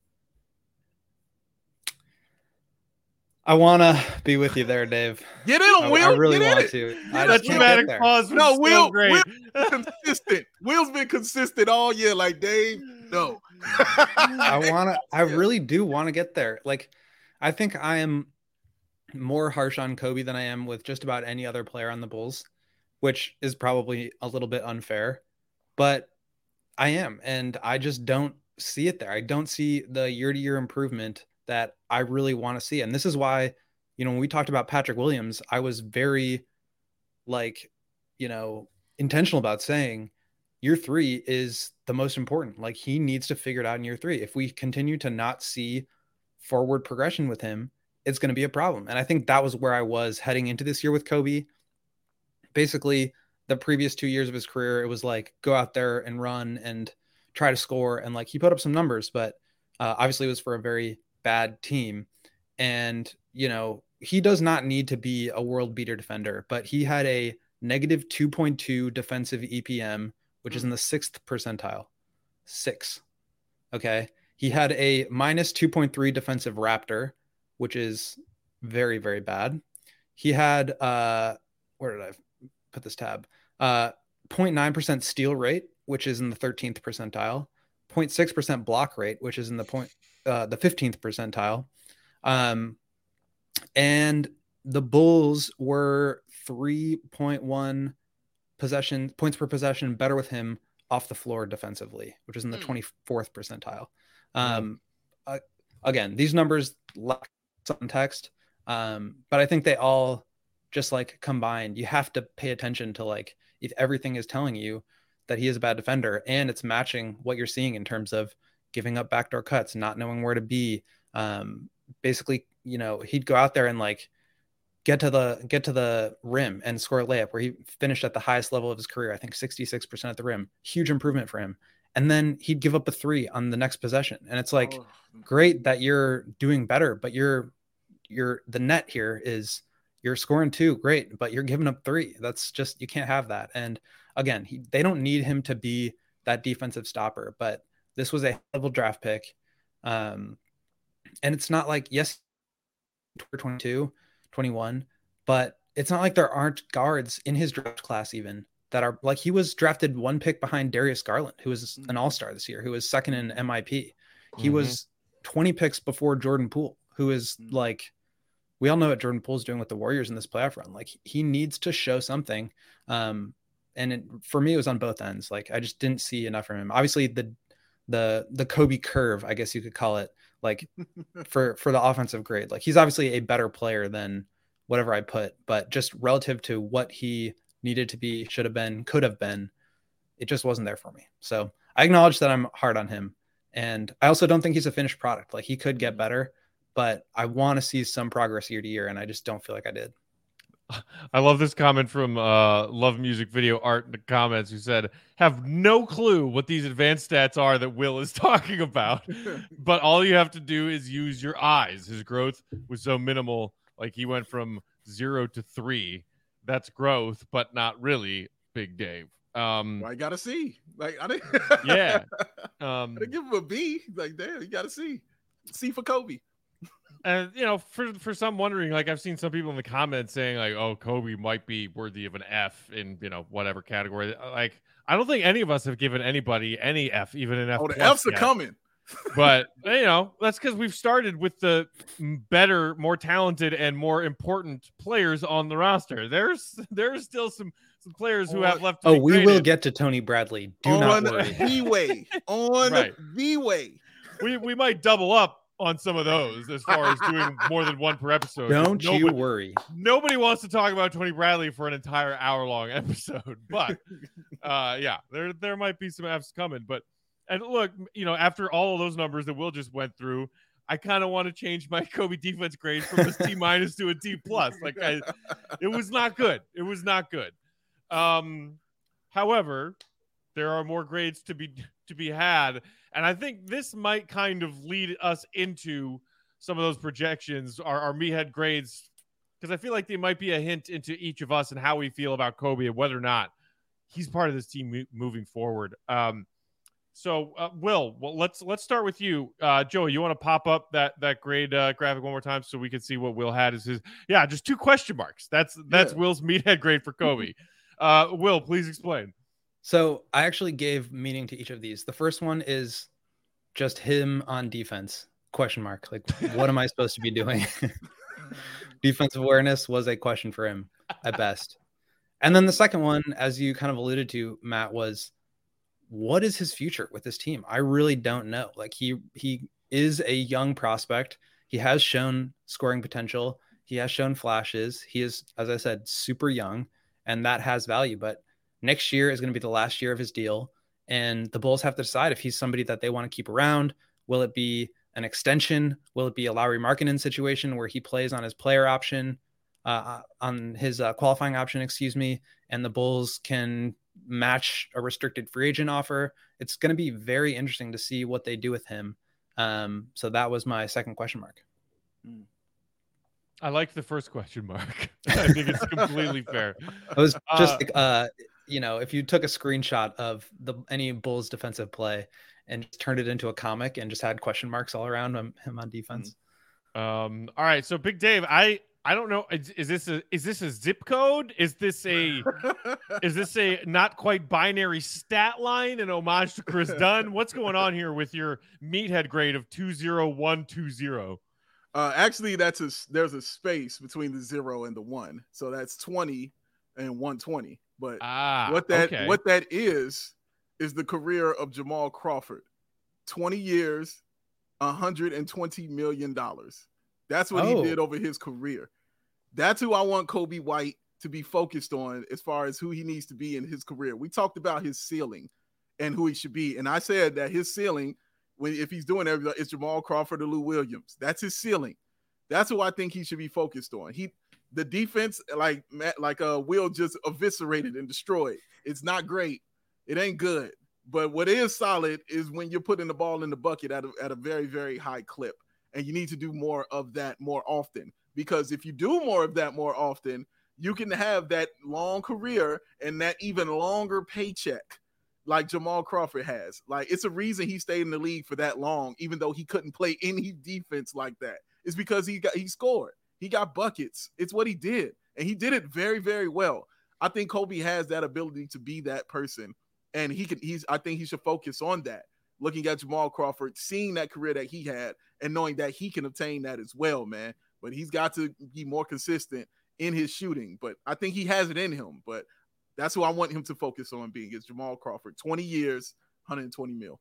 I want to be with you there, Dave. Get in, I, Will. I really Get want it. to. I that dramatic pause was no, Will, great. Will's consistent. Will's been consistent all year. Like, Dave, no. I want to. I really do want to get there. Like, I think I am more harsh on Kobe than I am with just about any other player on the Bulls, which is probably a little bit unfair. But I am, and I just don't see it there. I don't see the year-to-year improvement that I really want to see. And this is why, you know, when we talked about Patrick Williams, I was very like, you know, intentional about saying year three is the most important. Like he needs to figure it out in year three. If we continue to not see forward progression with him, it's going to be a problem. And I think that was where I was heading into this year with Kobe. Basically the previous two years of his career, it was like, go out there and run and try to score. And like, he put up some numbers, but uh, obviously it was for a very bad team. And, you know, he does not need to be a world beater defender, but he had a negative two point two defensive E P M, which mm. is in the sixth percentile. Six. Okay. He had a minus two point three defensive Raptor, which is very, very bad. He had, uh, where did I put this tab? Uh, zero point nine percent steal rate, which is in the thirteenth percentile. zero point six percent block rate, which is in the point, uh, the fifteenth percentile. Um, and the Bulls were three point one possession points per possession better with him off the floor defensively, which is in the twenty-fourth percentile. Um, yeah. uh, again, these numbers lack context, um, but I think they all just like combined. You have to pay attention to like if everything is telling you that he is a bad defender and it's matching what you're seeing in terms of giving up backdoor cuts, not knowing where to be. Um, basically, you know, he'd go out there and like get to the get to the rim and score a layup where he finished at the highest level of his career. I think sixty-six percent at the rim, huge improvement for him. And then he'd give up a three on the next possession. And it's like, oh. great that you're doing better, but you're, you're the net here is you're scoring two, great, but you're giving up three. That's just, you can't have that. And again, he, they don't need him to be that defensive stopper, but this was a level draft pick. Um, and it's not like, yes, twenty-two, twenty-one, but it's not like there aren't guards in his draft class even that are like, he was drafted one pick behind Darius Garland, who was an all-star this year, who was second in M I P. He mm-hmm. was twenty picks before Jordan Poole, who is like, we all know what Jordan Poole's doing with the Warriors in this playoff run. Like he needs to show something. Um, and it, for me, it was on both ends. Like I just didn't see enough from him. Obviously the, the, the Kobe curve, I guess you could call it, like for, for the offensive grade. Like he's obviously a better player than whatever I put, but just relative to what he needed to be, should have been, could have been, it just wasn't there for me. So I acknowledge that I'm hard on him. And I also don't think he's a finished product. Like he could get better, but I want to see some progress year to year. And I just don't feel like I did. I love this comment from uh, Love Music Video Art in the comments, who said, have no clue what these advanced stats are that Will is talking about, but all you have to do is use your eyes. His growth was so minimal. Like he went from zero to three. That's growth, but not really, Big Dave. Um, well, I gotta see. Like I didn't. yeah. Um, I didn't give him a B. Like damn, you gotta see. C for Kobe. And you know, for for some wondering, like I've seen some people in the comments saying like, "Oh, Kobe might be worthy of an F in you know whatever category." Like I don't think any of us have given anybody any F, even an F. Oh, the F's yet. Are coming. But you know, that's because we've started with the better, more talented, and more important players on the roster. There's there's still some some players who have left. To oh, be we graded. will get to Tony Bradley. Do on not worry. the way on right. the way. We we might double up on some of those as far as doing more than one per episode. Don't nobody, you worry. Nobody wants to talk about Tony Bradley for an entire hour long episode, but uh, yeah, there there might be some F's coming, but. And look, you know, after all of those numbers that Will just went through, I kind of want to change my Kobe defense grade from a C minus to a D plus. Like, I, it was not good. It was not good. Um, however, there are more grades to be to be had, and I think this might kind of lead us into some of those projections, our, our meathead grades, because I feel like they might be a hint into each of us and how we feel about Kobe and whether or not he's part of this team mo- moving forward. Um, So, uh, Will, well, let's let's start with you, uh, Joey. You want to pop up that that grade uh, graphic one more time so we can see what Will had as his? Yeah, just two question marks. That's that's yeah. Will's meathead grade for Kobe. uh, Will, please explain. So I actually gave meaning to each of these. The first one is just him on defense? Question mark. Like, what am I supposed to be doing? Defensive awareness was a question for him at best. And then the second one, as you kind of alluded to, Matt, was, what is his future with this team? I really don't know. Like he, he is a young prospect. He has shown scoring potential. He has shown flashes. He is, as I said, super young, and that has value, but next year is going to be the last year of his deal. And the Bulls have to decide if he's somebody that they want to keep around. Will it be an extension? Will it be a Lauri Markkanen situation where he plays on his player option, uh, on his uh, qualifying option, excuse me, and the Bulls can match a restricted free agent offer? It's going to be very interesting to see what they do with him. Um, so that was my second question mark. I like the first question mark. I think it's completely fair. It was just uh, like, uh, you know, if you took a screenshot of the any Bulls defensive play and just turned it into a comic and just had question marks all around him, him on defense. Um, all right, so Big Dave, I I don't know. Is, is this a is this a zip code? Is this a is this a not quite binary stat line in homage to Chris Dunn? What's going on here with your meathead grade of two zero one two zero? Uh, actually, that's a there's a space between the zero and the one, so that's twenty and one twenty. But ah, what that okay. what that is is the career of Jamal Crawford, twenty years, one hundred twenty million dollars. That's what oh. he did over his career. That's who I want Coby White to be focused on as far as who he needs to be in his career. We talked about his ceiling and who he should be, and I said that his ceiling, when if he's doing everything, it's Jamal Crawford or Lou Williams. That's his ceiling. That's who I think he should be focused on. He, the defense, like like uh, Will just eviscerated and destroyed. It's not great. It ain't good. But what is solid is when you're putting the ball in the bucket at a, at a very, very high clip. And you need to do more of that more often. Because if you do more of that more often, you can have that long career and that even longer paycheck like Jamal Crawford has. Like, it's a reason he stayed in the league for that long, even though he couldn't play any defense like that. It's because he got he scored. He got buckets. It's what he did. And he did it very, very well. I think Coby has that ability to be that person. And he can he's I think he should focus on that. Looking at Jamal Crawford, seeing that career that he had and knowing that he can obtain that as well, man. But he's got to be more consistent in his shooting. But I think he has it in him. But that's who I want him to focus on being is Jamal Crawford. twenty years, one hundred twenty mil.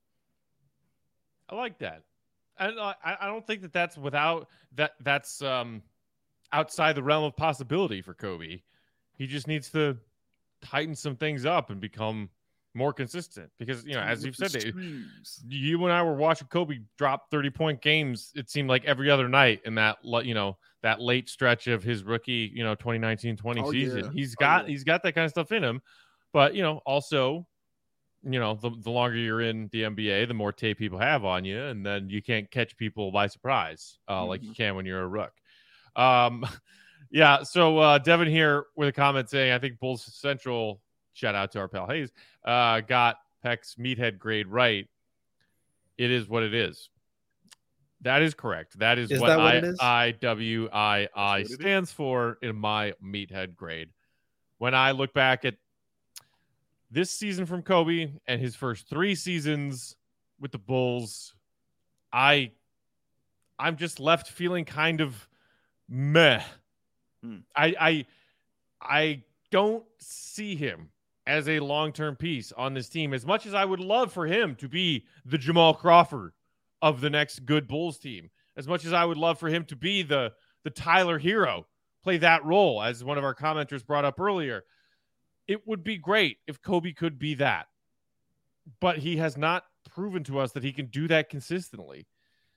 I like that. And I, I don't think that that's without that. That's um, outside the realm of possibility for Coby. He just needs to tighten some things up and become more consistent, because, you know, as you've said, it, you and I were watching Coby drop thirty point games. It seemed like every other night in that, you know, that late stretch of his rookie, you know, twenty nineteen twenty oh, season. Yeah. He's got, oh, yeah. he's got that kind of stuff in him, but, you know, also, you know, the, the longer you're in the N B A, the more tape people have on you, and then you can't catch people by surprise uh, mm-hmm. like you can when you're a rook. Um, yeah. So uh, Devin here with a comment saying, I think Bulls Central, shout out to our pal Hayes, uh, got Peck's meathead grade right. It is what it is. That is correct. That is, is what, that what I, it is? I W I I stands for in my meathead grade. When I look back at this season from Coby and his first three seasons with the Bulls, I, I'm just left feeling kind of meh. Hmm. I, I, I don't see him as a long-term piece on this team, as much as I would love for him to be the Jamal Crawford of the next good Bulls team, as much as I would love for him to be the, the Tyler Hero, play that role, as one of our commenters brought up earlier. It would be great if Coby could be that, but he has not proven to us that he can do that consistently.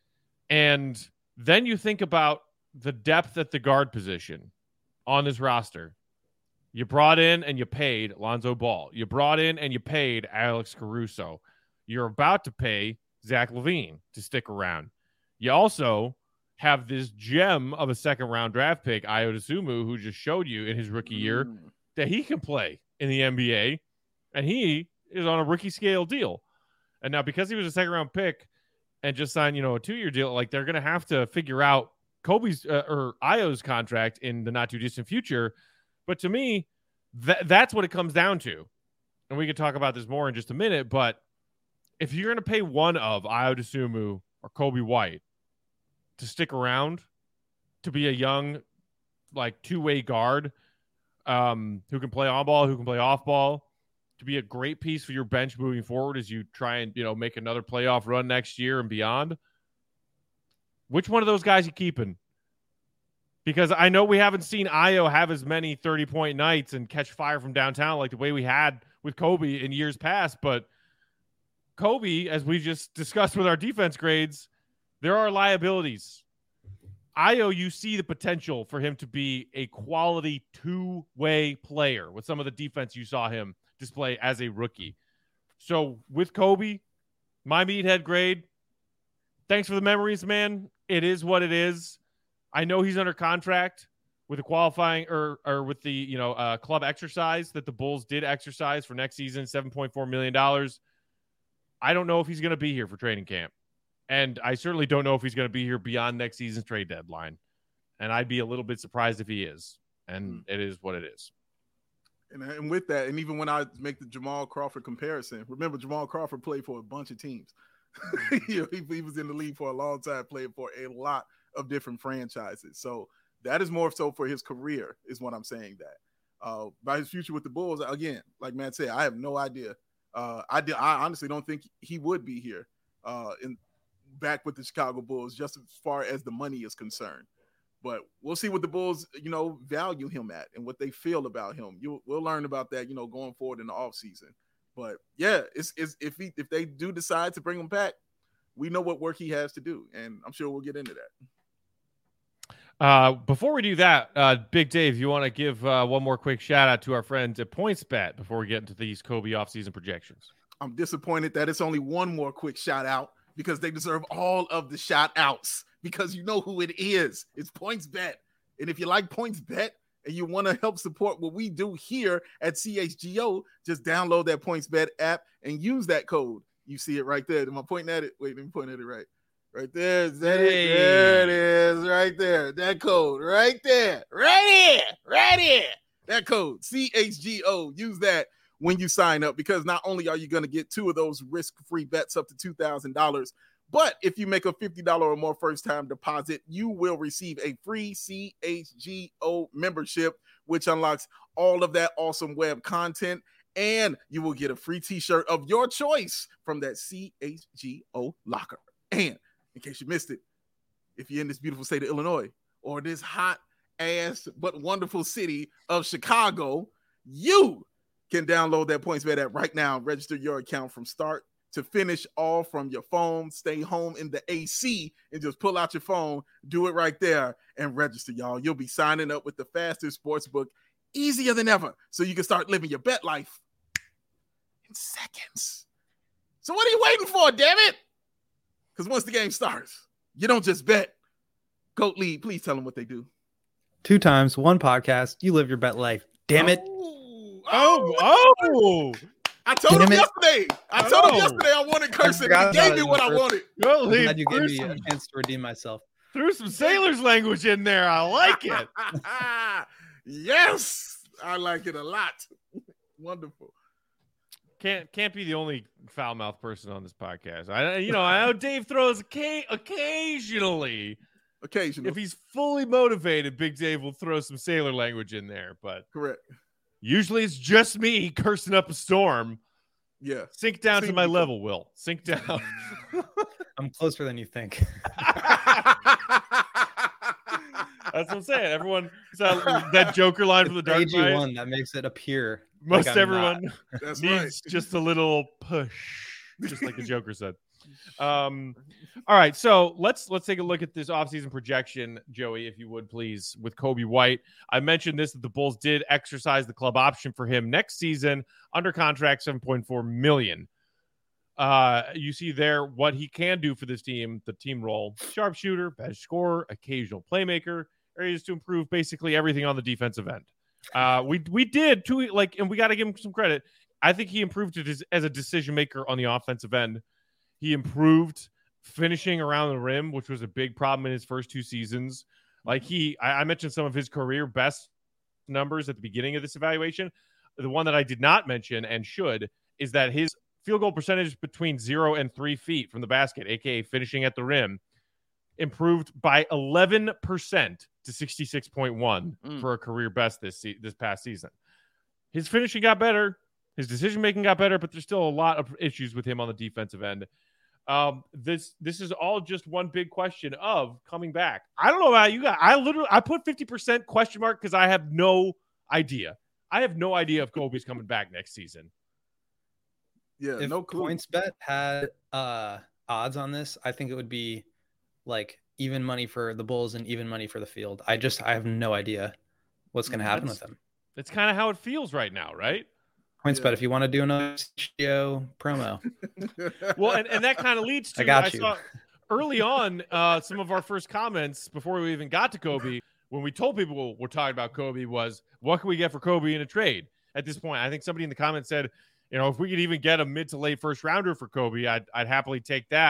And then you think about the depth at the guard position on this roster. You brought in and you paid Lonzo Ball. You brought in and you paid Alex Caruso. You're about to pay Zach LaVine to stick around. You also have this gem of a second-round draft pick, Ayo Dosunmu, who just showed you in his rookie year mm. that he can play in the N B A, and he is on a rookie scale deal. And now, because he was a second-round pick and just signed, you know, a two-year deal, like, they're going to have to figure out Kobe's uh, or Ayo's contract in the not-too-distant future. But to me, th- that's what it comes down to. And we can talk about this more in just a minute, but if you're going to pay one of Ayo Dosunmu or Coby White to stick around, to be a young, like, two-way guard um, who can play on ball, who can play off ball, to be a great piece for your bench moving forward as you try and, you know, make another playoff run next year and beyond, which one of those guys you keeping? Because I know we haven't seen Ayo have as many thirty-point nights and catch fire from downtown like the way we had with Coby in years past. But Coby, as we just discussed with our defense grades, there are liabilities. Ayo, you see the potential for him to be a quality two-way player with some of the defense you saw him display as a rookie. So with Coby, my meathead grade, thanks for the memories, man. It is what it is. I know he's under contract with a qualifying or or with the, you know, uh, club exercise that the Bulls did exercise for next season, seven point four million dollars. I don't know if he's going to be here for training camp. And I certainly don't know if he's going to be here beyond next season's trade deadline. And I'd be a little bit surprised if he is. And mm. it is what it is. And, and with that, and even when I make the Jamal Crawford comparison, remember Jamal Crawford played for a bunch of teams. you know, he, he was in the league for a long time, played for a lot of different franchises. So that is more so for his career, is what I'm saying. That uh, by his future with the Bulls, again, like Matt said, I have no idea. Uh, I did. I honestly don't think he would be here uh, in back with the Chicago Bulls, just as far as the money is concerned. But we'll see what the Bulls, you know, value him at and what they feel about him. You we'll learn about that, you know, going forward in the offseason. But yeah, it's, it's if he if they do decide to bring him back, we know what work he has to do, and I'm sure we'll get into that. Uh, before we do that, uh, Big Dave, you want to give uh, one more quick shout out to our friends at PointsBet before we get into these Kobe offseason projections? I'm disappointed that it's only one more quick shout out because they deserve all of the shout outs. Because you know who it is. It's PointsBet. And if you like PointsBet and you want to help support what we do here at C H G O, just download that PointsBet app and use that code. You see it right there. Am I pointing at it? Wait, let me point at it right. Right there. Is that hey. it? There it is. Right there. That code. Right there. Right here. Right here. That code. C H G O. Use that when you sign up, because not only are you going to get two of those risk-free bets up to two thousand dollars, but if you make a fifty dollars or more first-time deposit, you will receive a free C H G O membership, which unlocks all of that awesome web content, and you will get a free t-shirt of your choice from that C H G O locker. And in case you missed it, if you're in this beautiful state of Illinois or this hot-ass but wonderful city of Chicago, you can download that PointsBet app right now and register your account from start to finish, all from your phone. Stay home in the A C and just pull out your phone, do it right there, and register, y'all. You'll be signing up with the fastest sports book, easier than ever, so you can start living your bet life in seconds. So what are you waiting for, damn it? Because once the game starts, you don't just bet. Goat League, please tell them what they do. Two times, one podcast, you live your bet life. Damn it. Oh, oh, oh. I told Damn him it. yesterday. I told oh. him yesterday I wanted cursing. He gave me what I wanted. Well, I'm glad you gave me some, a chance to redeem myself. Threw some sailor's language in there. I like it. Yes, I like it a lot. Wonderful. Can't can't be the only foul mouth person on this podcast. I you know I know Dave throws occasionally. Occasionally, if he's fully motivated, Big Dave will throw some sailor language in there. But correct. Usually it's just me cursing up a storm. Yeah. Sink down Sink to my down. level, Will. Sink down. I'm closer than you think. That's what I'm saying. Everyone, that, that Joker line from the Dark Knight. one that makes it appear. Most like everyone That's needs right. just a little push, just like the Joker said. Um, all right, so let's let's take a look at this offseason projection, Joey, if you would please, with Coby White. I mentioned this that the Bulls did exercise the club option for him next season under contract, seven point four million dollars. Uh, you see there what he can do for this team, the team role: sharpshooter, bench scorer, occasional playmaker, areas to improve basically everything on the defensive end. Uh, we we did too, like, and we got to give him some credit. I think he improved it as, as a decision maker on the offensive end. He improved finishing around the rim, which was a big problem in his first two seasons. Like he, I, I mentioned some of his career best numbers at the beginning of this evaluation. The one that I did not mention and should is that his field goal percentage between zero and three feet from the basket, aka finishing at the rim, improved by eleven percent to sixty-six point one mm. for a career best this se- this past season. His finishing got better. His decision making got better, but there's still a lot of issues with him on the defensive end. Um, this this is all just one big question of coming back. I don't know about you guys. I literally I put fifty percent question mark because I have no idea. I have no idea if Kobe's coming back next season. Yeah, if no clue. PointsBet had uh, odds on this, I think it would be like even money for the Bulls and even money for the field. I just I have no idea what's going to happen That's, with him. That's kind of how it feels right now, right? PointsBet, yeah. If you want to do another C H G O promo. Well, and, and that kind of leads to I got I you. saw early on uh, some of our first comments before we even got to Kobe, when we told people we're talking about Kobe, was what can we get for Kobe in a trade? At this point, I think somebody in the comments said, you know, if we could even get a mid to late first rounder for Kobe, I'd I'd happily take that.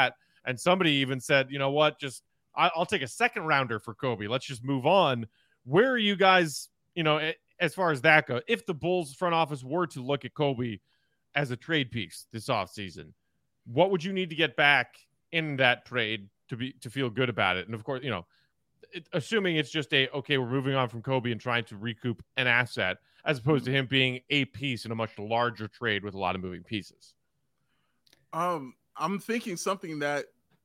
And somebody even said, you know what, just I, I'll take a second rounder for Kobe. Let's just move on. Where are you guys, you know, as far as that goes? If the Bulls front office were to look at Kobe as a trade piece this offseason, what would you need to get back in that trade to be to feel good about it? And of course, you know, it, assuming it's just a, okay, we're moving on from Kobe and trying to recoup an asset, as opposed to him being a piece in a much larger trade with a lot of moving pieces. Um, I'm thinking something that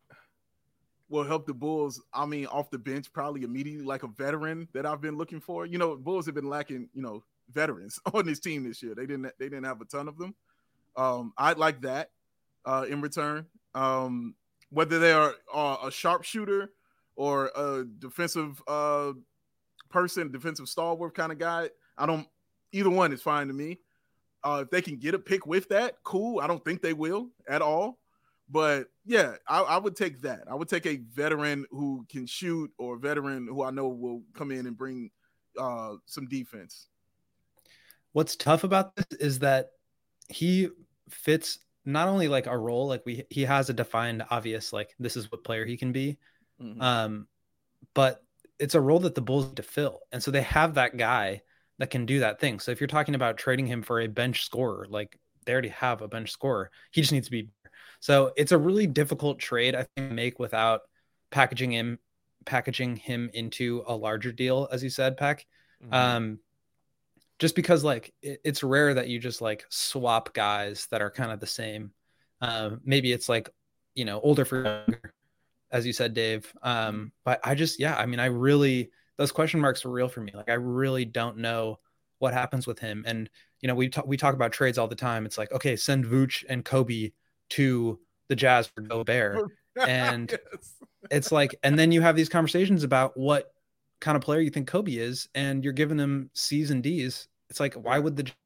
will help the Bulls. I mean, off the bench, probably immediately, like a veteran that I've been looking for. You know, Bulls have been lacking, you know, veterans on this team this year. They didn't they didn't have a ton of them. Um, I'd like that uh, in return. Um, whether they are uh, a sharpshooter or a defensive uh, person, defensive stalwart kind of guy, I don't. Either one is fine to me. Uh, if they can get a pick with that, cool. I don't think they will at all. But yeah, I, I would take that. I would take a veteran who can shoot, or a veteran who I know will come in and bring uh, some defense. What's tough about this is that he fits not only like a role, like we he has a defined, obvious, like this is what player he can be, mm-hmm. um, but it's a role that the Bulls need to fill, and so they have that guy that can do that thing. So if you're talking about trading him for a bench scorer, like they already have a bench scorer, he just needs to be. So it's a really difficult trade, I think, to make without packaging him, packaging him into a larger deal, as you said, Pack. Mm-hmm. Um, just because like it, it's rare that you just like swap guys that are kind of the same. Um, maybe it's like, you know, older for younger, as you said, Dave. Um, but I just, yeah, I mean, I really, those question marks are real for me. Like, I really don't know what happens with him. And, you know, we talk, we talk about trades all the time. It's like, okay, send Vooch and Kobe to the Jazz for Gobert. And yes. It's like, and then you have these conversations about what kind of player you think Kobe is, and you're giving them C's and D's. It's like, why would the,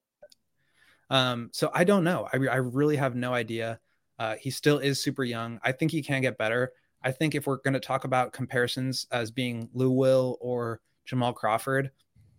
um, so I don't know. I, I really have no idea. Uh, he still is super young. I think he can get better. I think if we're going to talk about comparisons as being Lou Will or Jamal Crawford,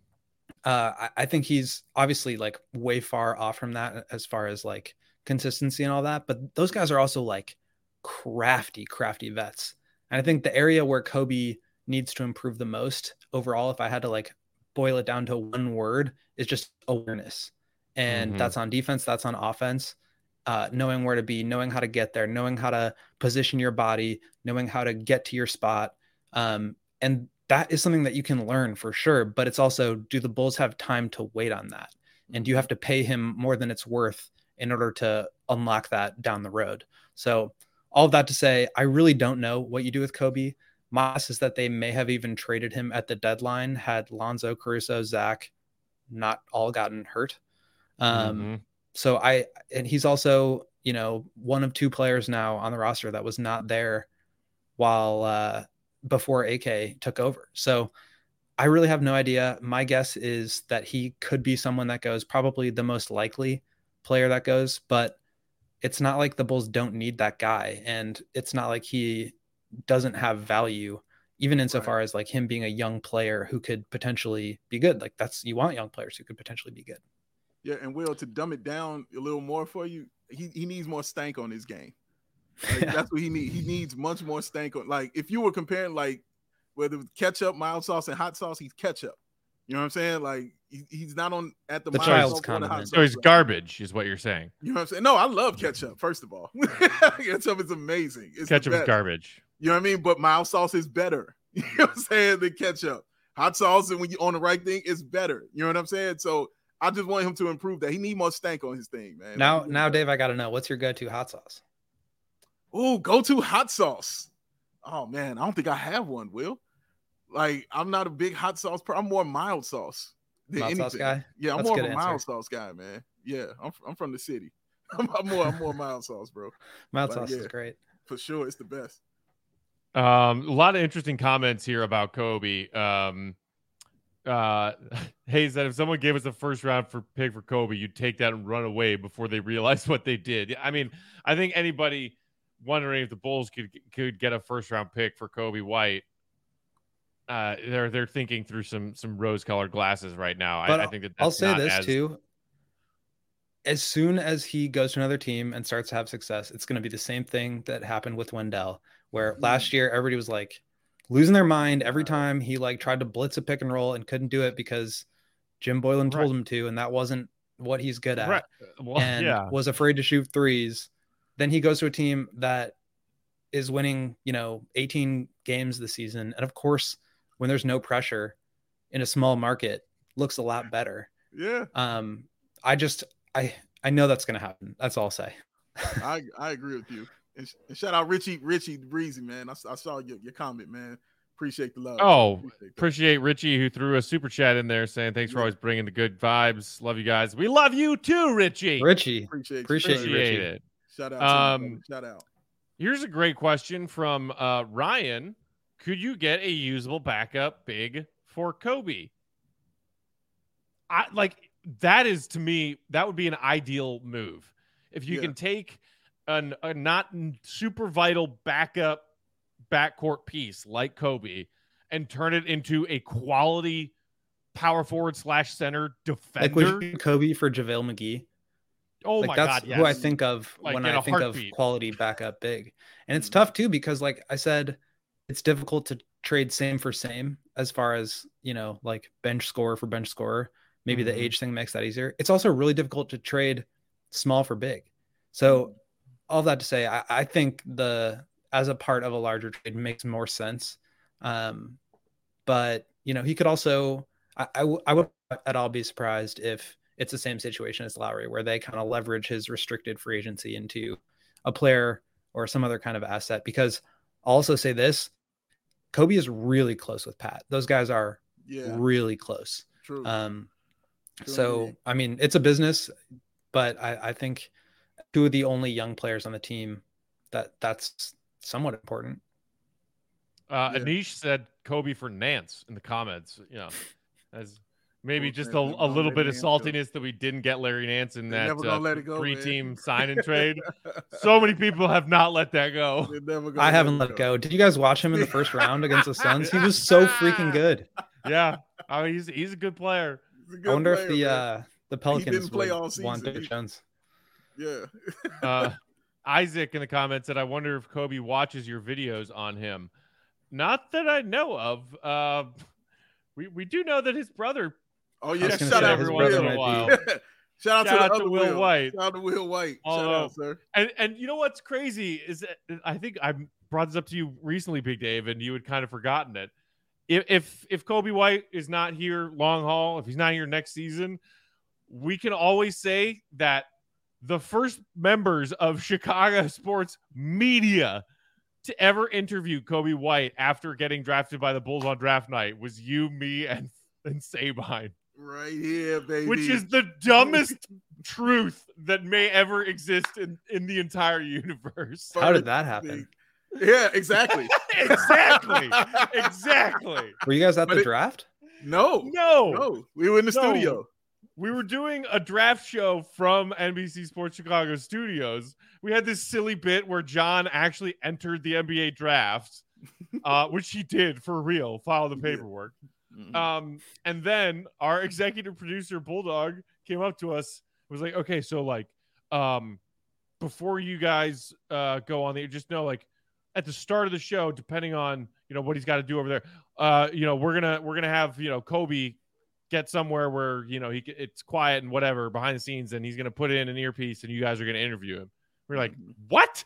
uh, I, I think he's obviously like way far off from that as far as like consistency and all that. But those guys are also like crafty, crafty vets. And I think the area where Kobe needs to improve the most overall, if I had to like boil it down to one word, is just awareness. And mm-hmm. that's on defense. That's on offense. Uh, knowing where to be, knowing how to get there, knowing how to position your body, knowing how to get to your spot. Um, and that is something that you can learn for sure. But it's also, do the Bulls have time to wait on that? And do you have to pay him more than it's worth in order to unlock that down the road? So all of that to say, I really don't know what you do with Kobe. My guess is that they may have even traded him at the deadline had Lonzo, Caruso, Zach not all gotten hurt. Um, mm-hmm. So I, and he's also, you know, one of two players now on the roster that was not there while, uh, before A K took over. So I really have no idea. My guess is that he could be someone that goes, probably the most likely player that goes, but it's not like the Bulls don't need that guy. And it's not like he doesn't have value, even insofar right. as like him being a young player who could potentially be good. Like that's, you want young players who could potentially be good. Yeah, and Will, to dumb it down a little more for you, he, he needs more stank on his game. Like, yeah. That's what he needs. He needs much more stank on. Like if you were comparing like whether it's ketchup, mild sauce, and hot sauce, he's ketchup. You know what I'm saying? Like he, he's not on at the, the child's condiment. So he's garbage, is what you're saying. You know what I'm saying? No, I love ketchup. First of all, ketchup is amazing. It's ketchup is garbage. You know what I mean? But mild sauce is better. You know what I'm saying? Than ketchup. Hot sauce, and when you're on the right thing, it's better. You know what I'm saying? So I just want him to improve that. He need more stank on his thing, man. Now, like, now, Dave, I got to know, what's your go-to hot sauce? Oh, go-to hot sauce. Oh man, I don't think I have one. Will, like, I'm not a big hot sauce. Per- I'm more mild sauce than mild anything. Sauce guy? Yeah, I'm That's more of a answer. mild sauce guy, man. Yeah, I'm I'm from the city. I'm, I'm more I'm more mild sauce, bro. Mild like, sauce yeah, is great for sure. It's the best. Um, a lot of interesting comments here about Kobe. Um, uh, Hayes said if someone gave us a first round for pick for Kobe, you'd take that and run away before they realized what they did. I mean, I think anybody wondering if the Bulls could could get a first round pick for Kobe White, uh, they're they're thinking through some some rose colored glasses right now. I, I think that that's I'll say not this as... too. as soon as he goes to another team and starts to have success, it's going to be the same thing that happened with Wendell, where mm-hmm. last year everybody was like losing their mind every time he like tried to blitz a pick and roll and couldn't do it because Jim Boylan right. told him to, and that wasn't what he's good at, right. well, and yeah. was afraid to shoot threes. Then he goes to a team that is winning, you know, eighteen games this season, and of course, when there's no pressure in a small market, looks a lot better. Yeah. Um, I just. I, I know that's going to happen. That's all I'll say. I I agree with you. And, sh- and shout out Richie, Richie Breezy, man. I, I saw your, your comment, man. Appreciate the love. Oh, appreciate, appreciate Richie who threw a super chat in there saying thanks yeah. for always bringing the good vibes. Love you guys. We love you too, Richie. Richie. Appreciate, appreciate, appreciate you, Richie. it. Shout out. Um, to you, shout out. Here's a great question from uh, Ryan. Could you get a usable backup big for Kobe? I like that is to me, that would be an ideal move. If you yeah. can take an, a not super vital backup backcourt piece like Kobe and turn it into a quality power forward slash center defender. Like would you Kobe for JaVale McGee? Oh like my that's God, yes. who I think of like when I think heartbeat. of quality backup big. And it's tough too, because like I said, it's difficult to trade same for same as far as, you know, like bench scorer for bench scorer. Maybe mm-hmm. the age thing makes that easier. It's also really difficult to trade small for big. So mm-hmm. all that to say, I, I think the as a part of a larger trade makes more sense. Um, but, you know, he could also, I, I, w- I would at all be surprised if it's the same situation as Lowry, where they kind of leverage his restricted free agency into a player or some other kind of asset. Because I'll also say this, Kobe is really close with Pat. Those guys are yeah. really close. True. Um, So, I mean, it's a business, but I, I think two of the only young players on the team that that's somewhat important. Uh, yeah. Anish said Kobe for Nance in the comments, you know, as maybe just a, a little bit of saltiness go. that we didn't get Larry Nance in that uh, three man. team sign and trade. So many people have not let that go. I haven't let it go. go. Did you guys watch him in the first round against the Suns? He was so freaking good. Yeah. I mean, he's, he's a good player. I wonder player, if the man. uh, the Pelicans didn't play all want season. Jones. Yeah. uh, Isaac in the comments said, "I wonder if Kobe watches your videos on him." Not that I know of. Uh, we we do know that his brother. Oh yeah, shout out every once in a while. Shout out Shout to, out the to other Will, Will White. Shout out to Will White. Although, Shout out, sir. And and you know what's crazy is that I think I brought this up to you recently, Big Dave, and you had kind of forgotten it. If if if Kobe White is not here long haul, if he's not here next season, we can always say that the first members of Chicago sports media to ever interview Kobe White after getting drafted by the Bulls on draft night was you, me, and, and Sabine. Right here, baby. Which is the dumbest truth that may ever exist in, in the entire universe. How did that happen? Yeah, exactly. exactly. Exactly. Were you guys at but the it, draft? No. No. No. We were in the no. studio. We were doing a draft show from N B C Sports Chicago studios. We had this silly bit where John actually entered the N B A draft, uh, which he did for real, filed the paperwork. Mm-hmm. Um, and then our executive producer, Bulldog, came up to us, was like, okay, so like, um, before you guys uh, go on the, just know, like, at the start of the show, depending on, you know, what he's got to do over there, uh, you know, we're gonna we're gonna have, you know, Kobe get somewhere where, you know, he it's quiet and whatever behind the scenes, and he's gonna put in an earpiece, and you guys are gonna interview him. We're like, what?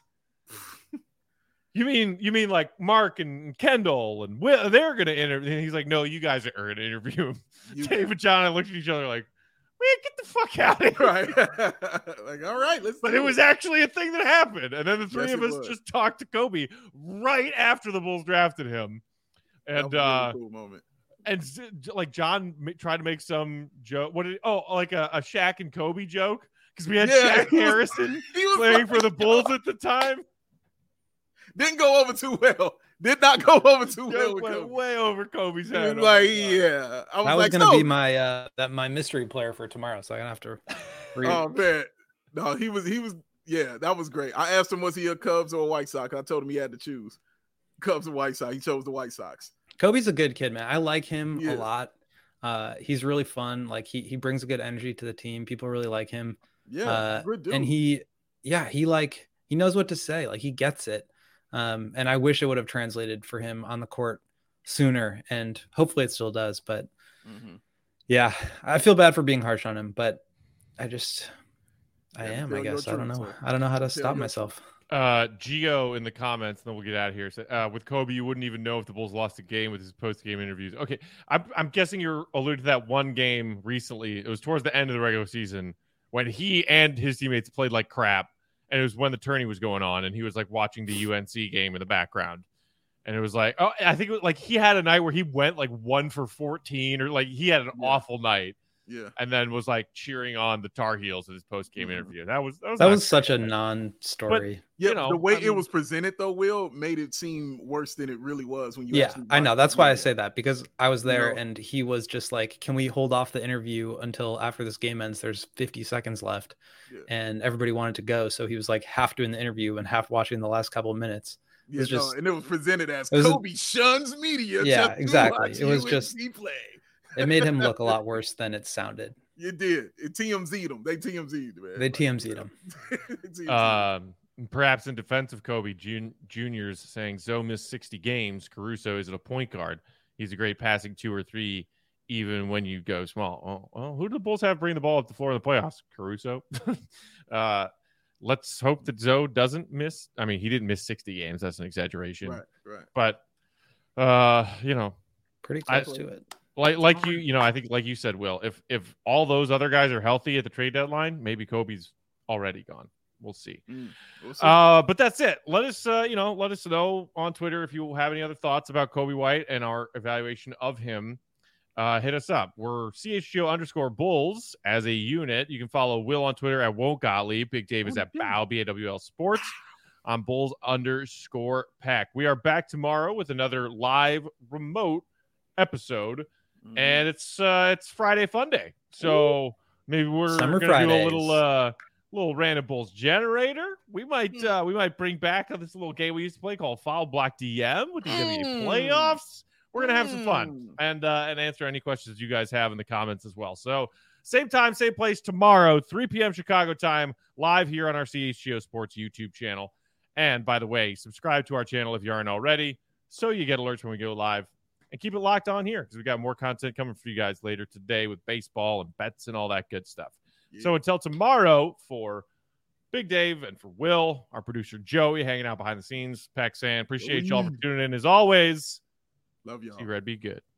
you mean you mean like Mark and Kendall and Will, they're gonna interview? And he's like, no, you guys are gonna interview him. You Dave and John and I looked at each other like, man, get the fuck out of here. Right. Like, all right, let's But it, it was actually a thing that happened. And then the three yes, of us was. just talked to Kobe right after the Bulls drafted him. And, that was a uh, really cool moment. And like John tried to make some joke. What did oh like a, a Shaq and Kobe joke? Because we had yeah, Shaq was, Harrison playing like, for the Bulls at the time. Didn't go over too well. Did not go over too well. Went Kobe. way over Kobe's head. Like, yeah, I was that was like, gonna no. be my uh that my mystery player for tomorrow, so I'm gonna have to. Read oh man, no, he was he was yeah, that was great. I asked him was he a Cubs or a White Sox. I told him he had to choose Cubs or White Sox. He chose the White Sox. Kobe's a good kid, man. I like him yeah. a lot. Uh, he's really fun. Like he he brings a good energy to the team. People really like him. Yeah, uh, good dude. and he, yeah, he like he knows what to say. Like he gets it. Um, and I wish it would have translated for him on the court sooner, and hopefully it still does. But mm-hmm. yeah, I feel bad for being harsh on him, but I just, I Yeah, am. tell I your guess I don't truth, know. sir. I don't know how to Tell stop your myself. Uh, Gio in the comments, and then we'll get out of here. So, uh, with Kobe, you wouldn't even know if the Bulls lost a game with his post-game interviews. Okay, I'm, I'm guessing you're alluding to that one game recently. It was towards the end of the regular season when he and his teammates played like crap, and it was when the tourney was going on, and he was like watching the U N C game in the background. And it was like, oh, I think it was like he had a night where he went like one for fourteen, or like he had an yeah. awful night. Yeah. And then was like cheering on the Tar Heels in his post game mm-hmm. interview. That was that was, that was such a non-story. But, yeah, you know, the way I mean, it was presented though, Will, made it seem worse than it really was when you yeah, actually I know. That's why I say it. that, because I was there you know? and he was just like, can we hold off the interview until after this game ends? There's fifty seconds left. Yeah. And everybody wanted to go. So he was like half doing the interview and half watching the last couple of minutes. Yeah, it just, no, and it was presented as was, Kobe shuns media. Yeah, exactly. It was U N C just play. It made him look a lot worse than it sounded. You did. It T M Z'd him. They T M Z'd, man. They T M Z'd him. um, perhaps in defense of Kobe, Jun- Junior's saying Zoe missed sixty games. Caruso isn't a point guard. He's a great passing two or three, even when you go small. Oh, well, who do the Bulls have bring the ball up the floor in the playoffs? Caruso. uh, let's hope that Zoe doesn't miss. I mean, he didn't miss sixty games. That's an exaggeration. Right, right. But, uh, you know. Pretty close I, to it. Like like you, you know, I think like you said, Will, if if all those other guys are healthy at the trade deadline, maybe Kobe's already gone. We'll see. Mm, we'll see. Uh, but that's it. Let us, uh, you know, let us know on Twitter if you have any other thoughts about Kobe White and our evaluation of him. Uh, hit us up. We're C H G O underscore Bulls as a unit. You can follow Will on Twitter at Won't Gottlieb. Big Dave is at Bow, B A W L Sports. On Bulls underscore Pack. We are back tomorrow with another live remote episode. Mm-hmm. And it's uh, it's Friday Fun Day, so Ooh. maybe we're Summer gonna Fridays. do a little uh, little Random Bulls generator. We might uh, we might bring back this little game we used to play called Foul Block D M with the mm. N B A playoffs. We're gonna have some fun and uh, and answer any questions you guys have in the comments as well. So same time, same place tomorrow, three p.m. Chicago time, live here on our C H G O Sports YouTube channel. And by the way, subscribe to our channel if you aren't already, so you get alerts when we go live. And keep it locked on here because we got more content coming for you guys later today with baseball and bets and all that good stuff. Yeah. So until tomorrow, for Big Dave and for Will, our producer Joey hanging out behind the scenes, Paxan, appreciate y'all for tuning in as always. Love y'all. See Red, be good.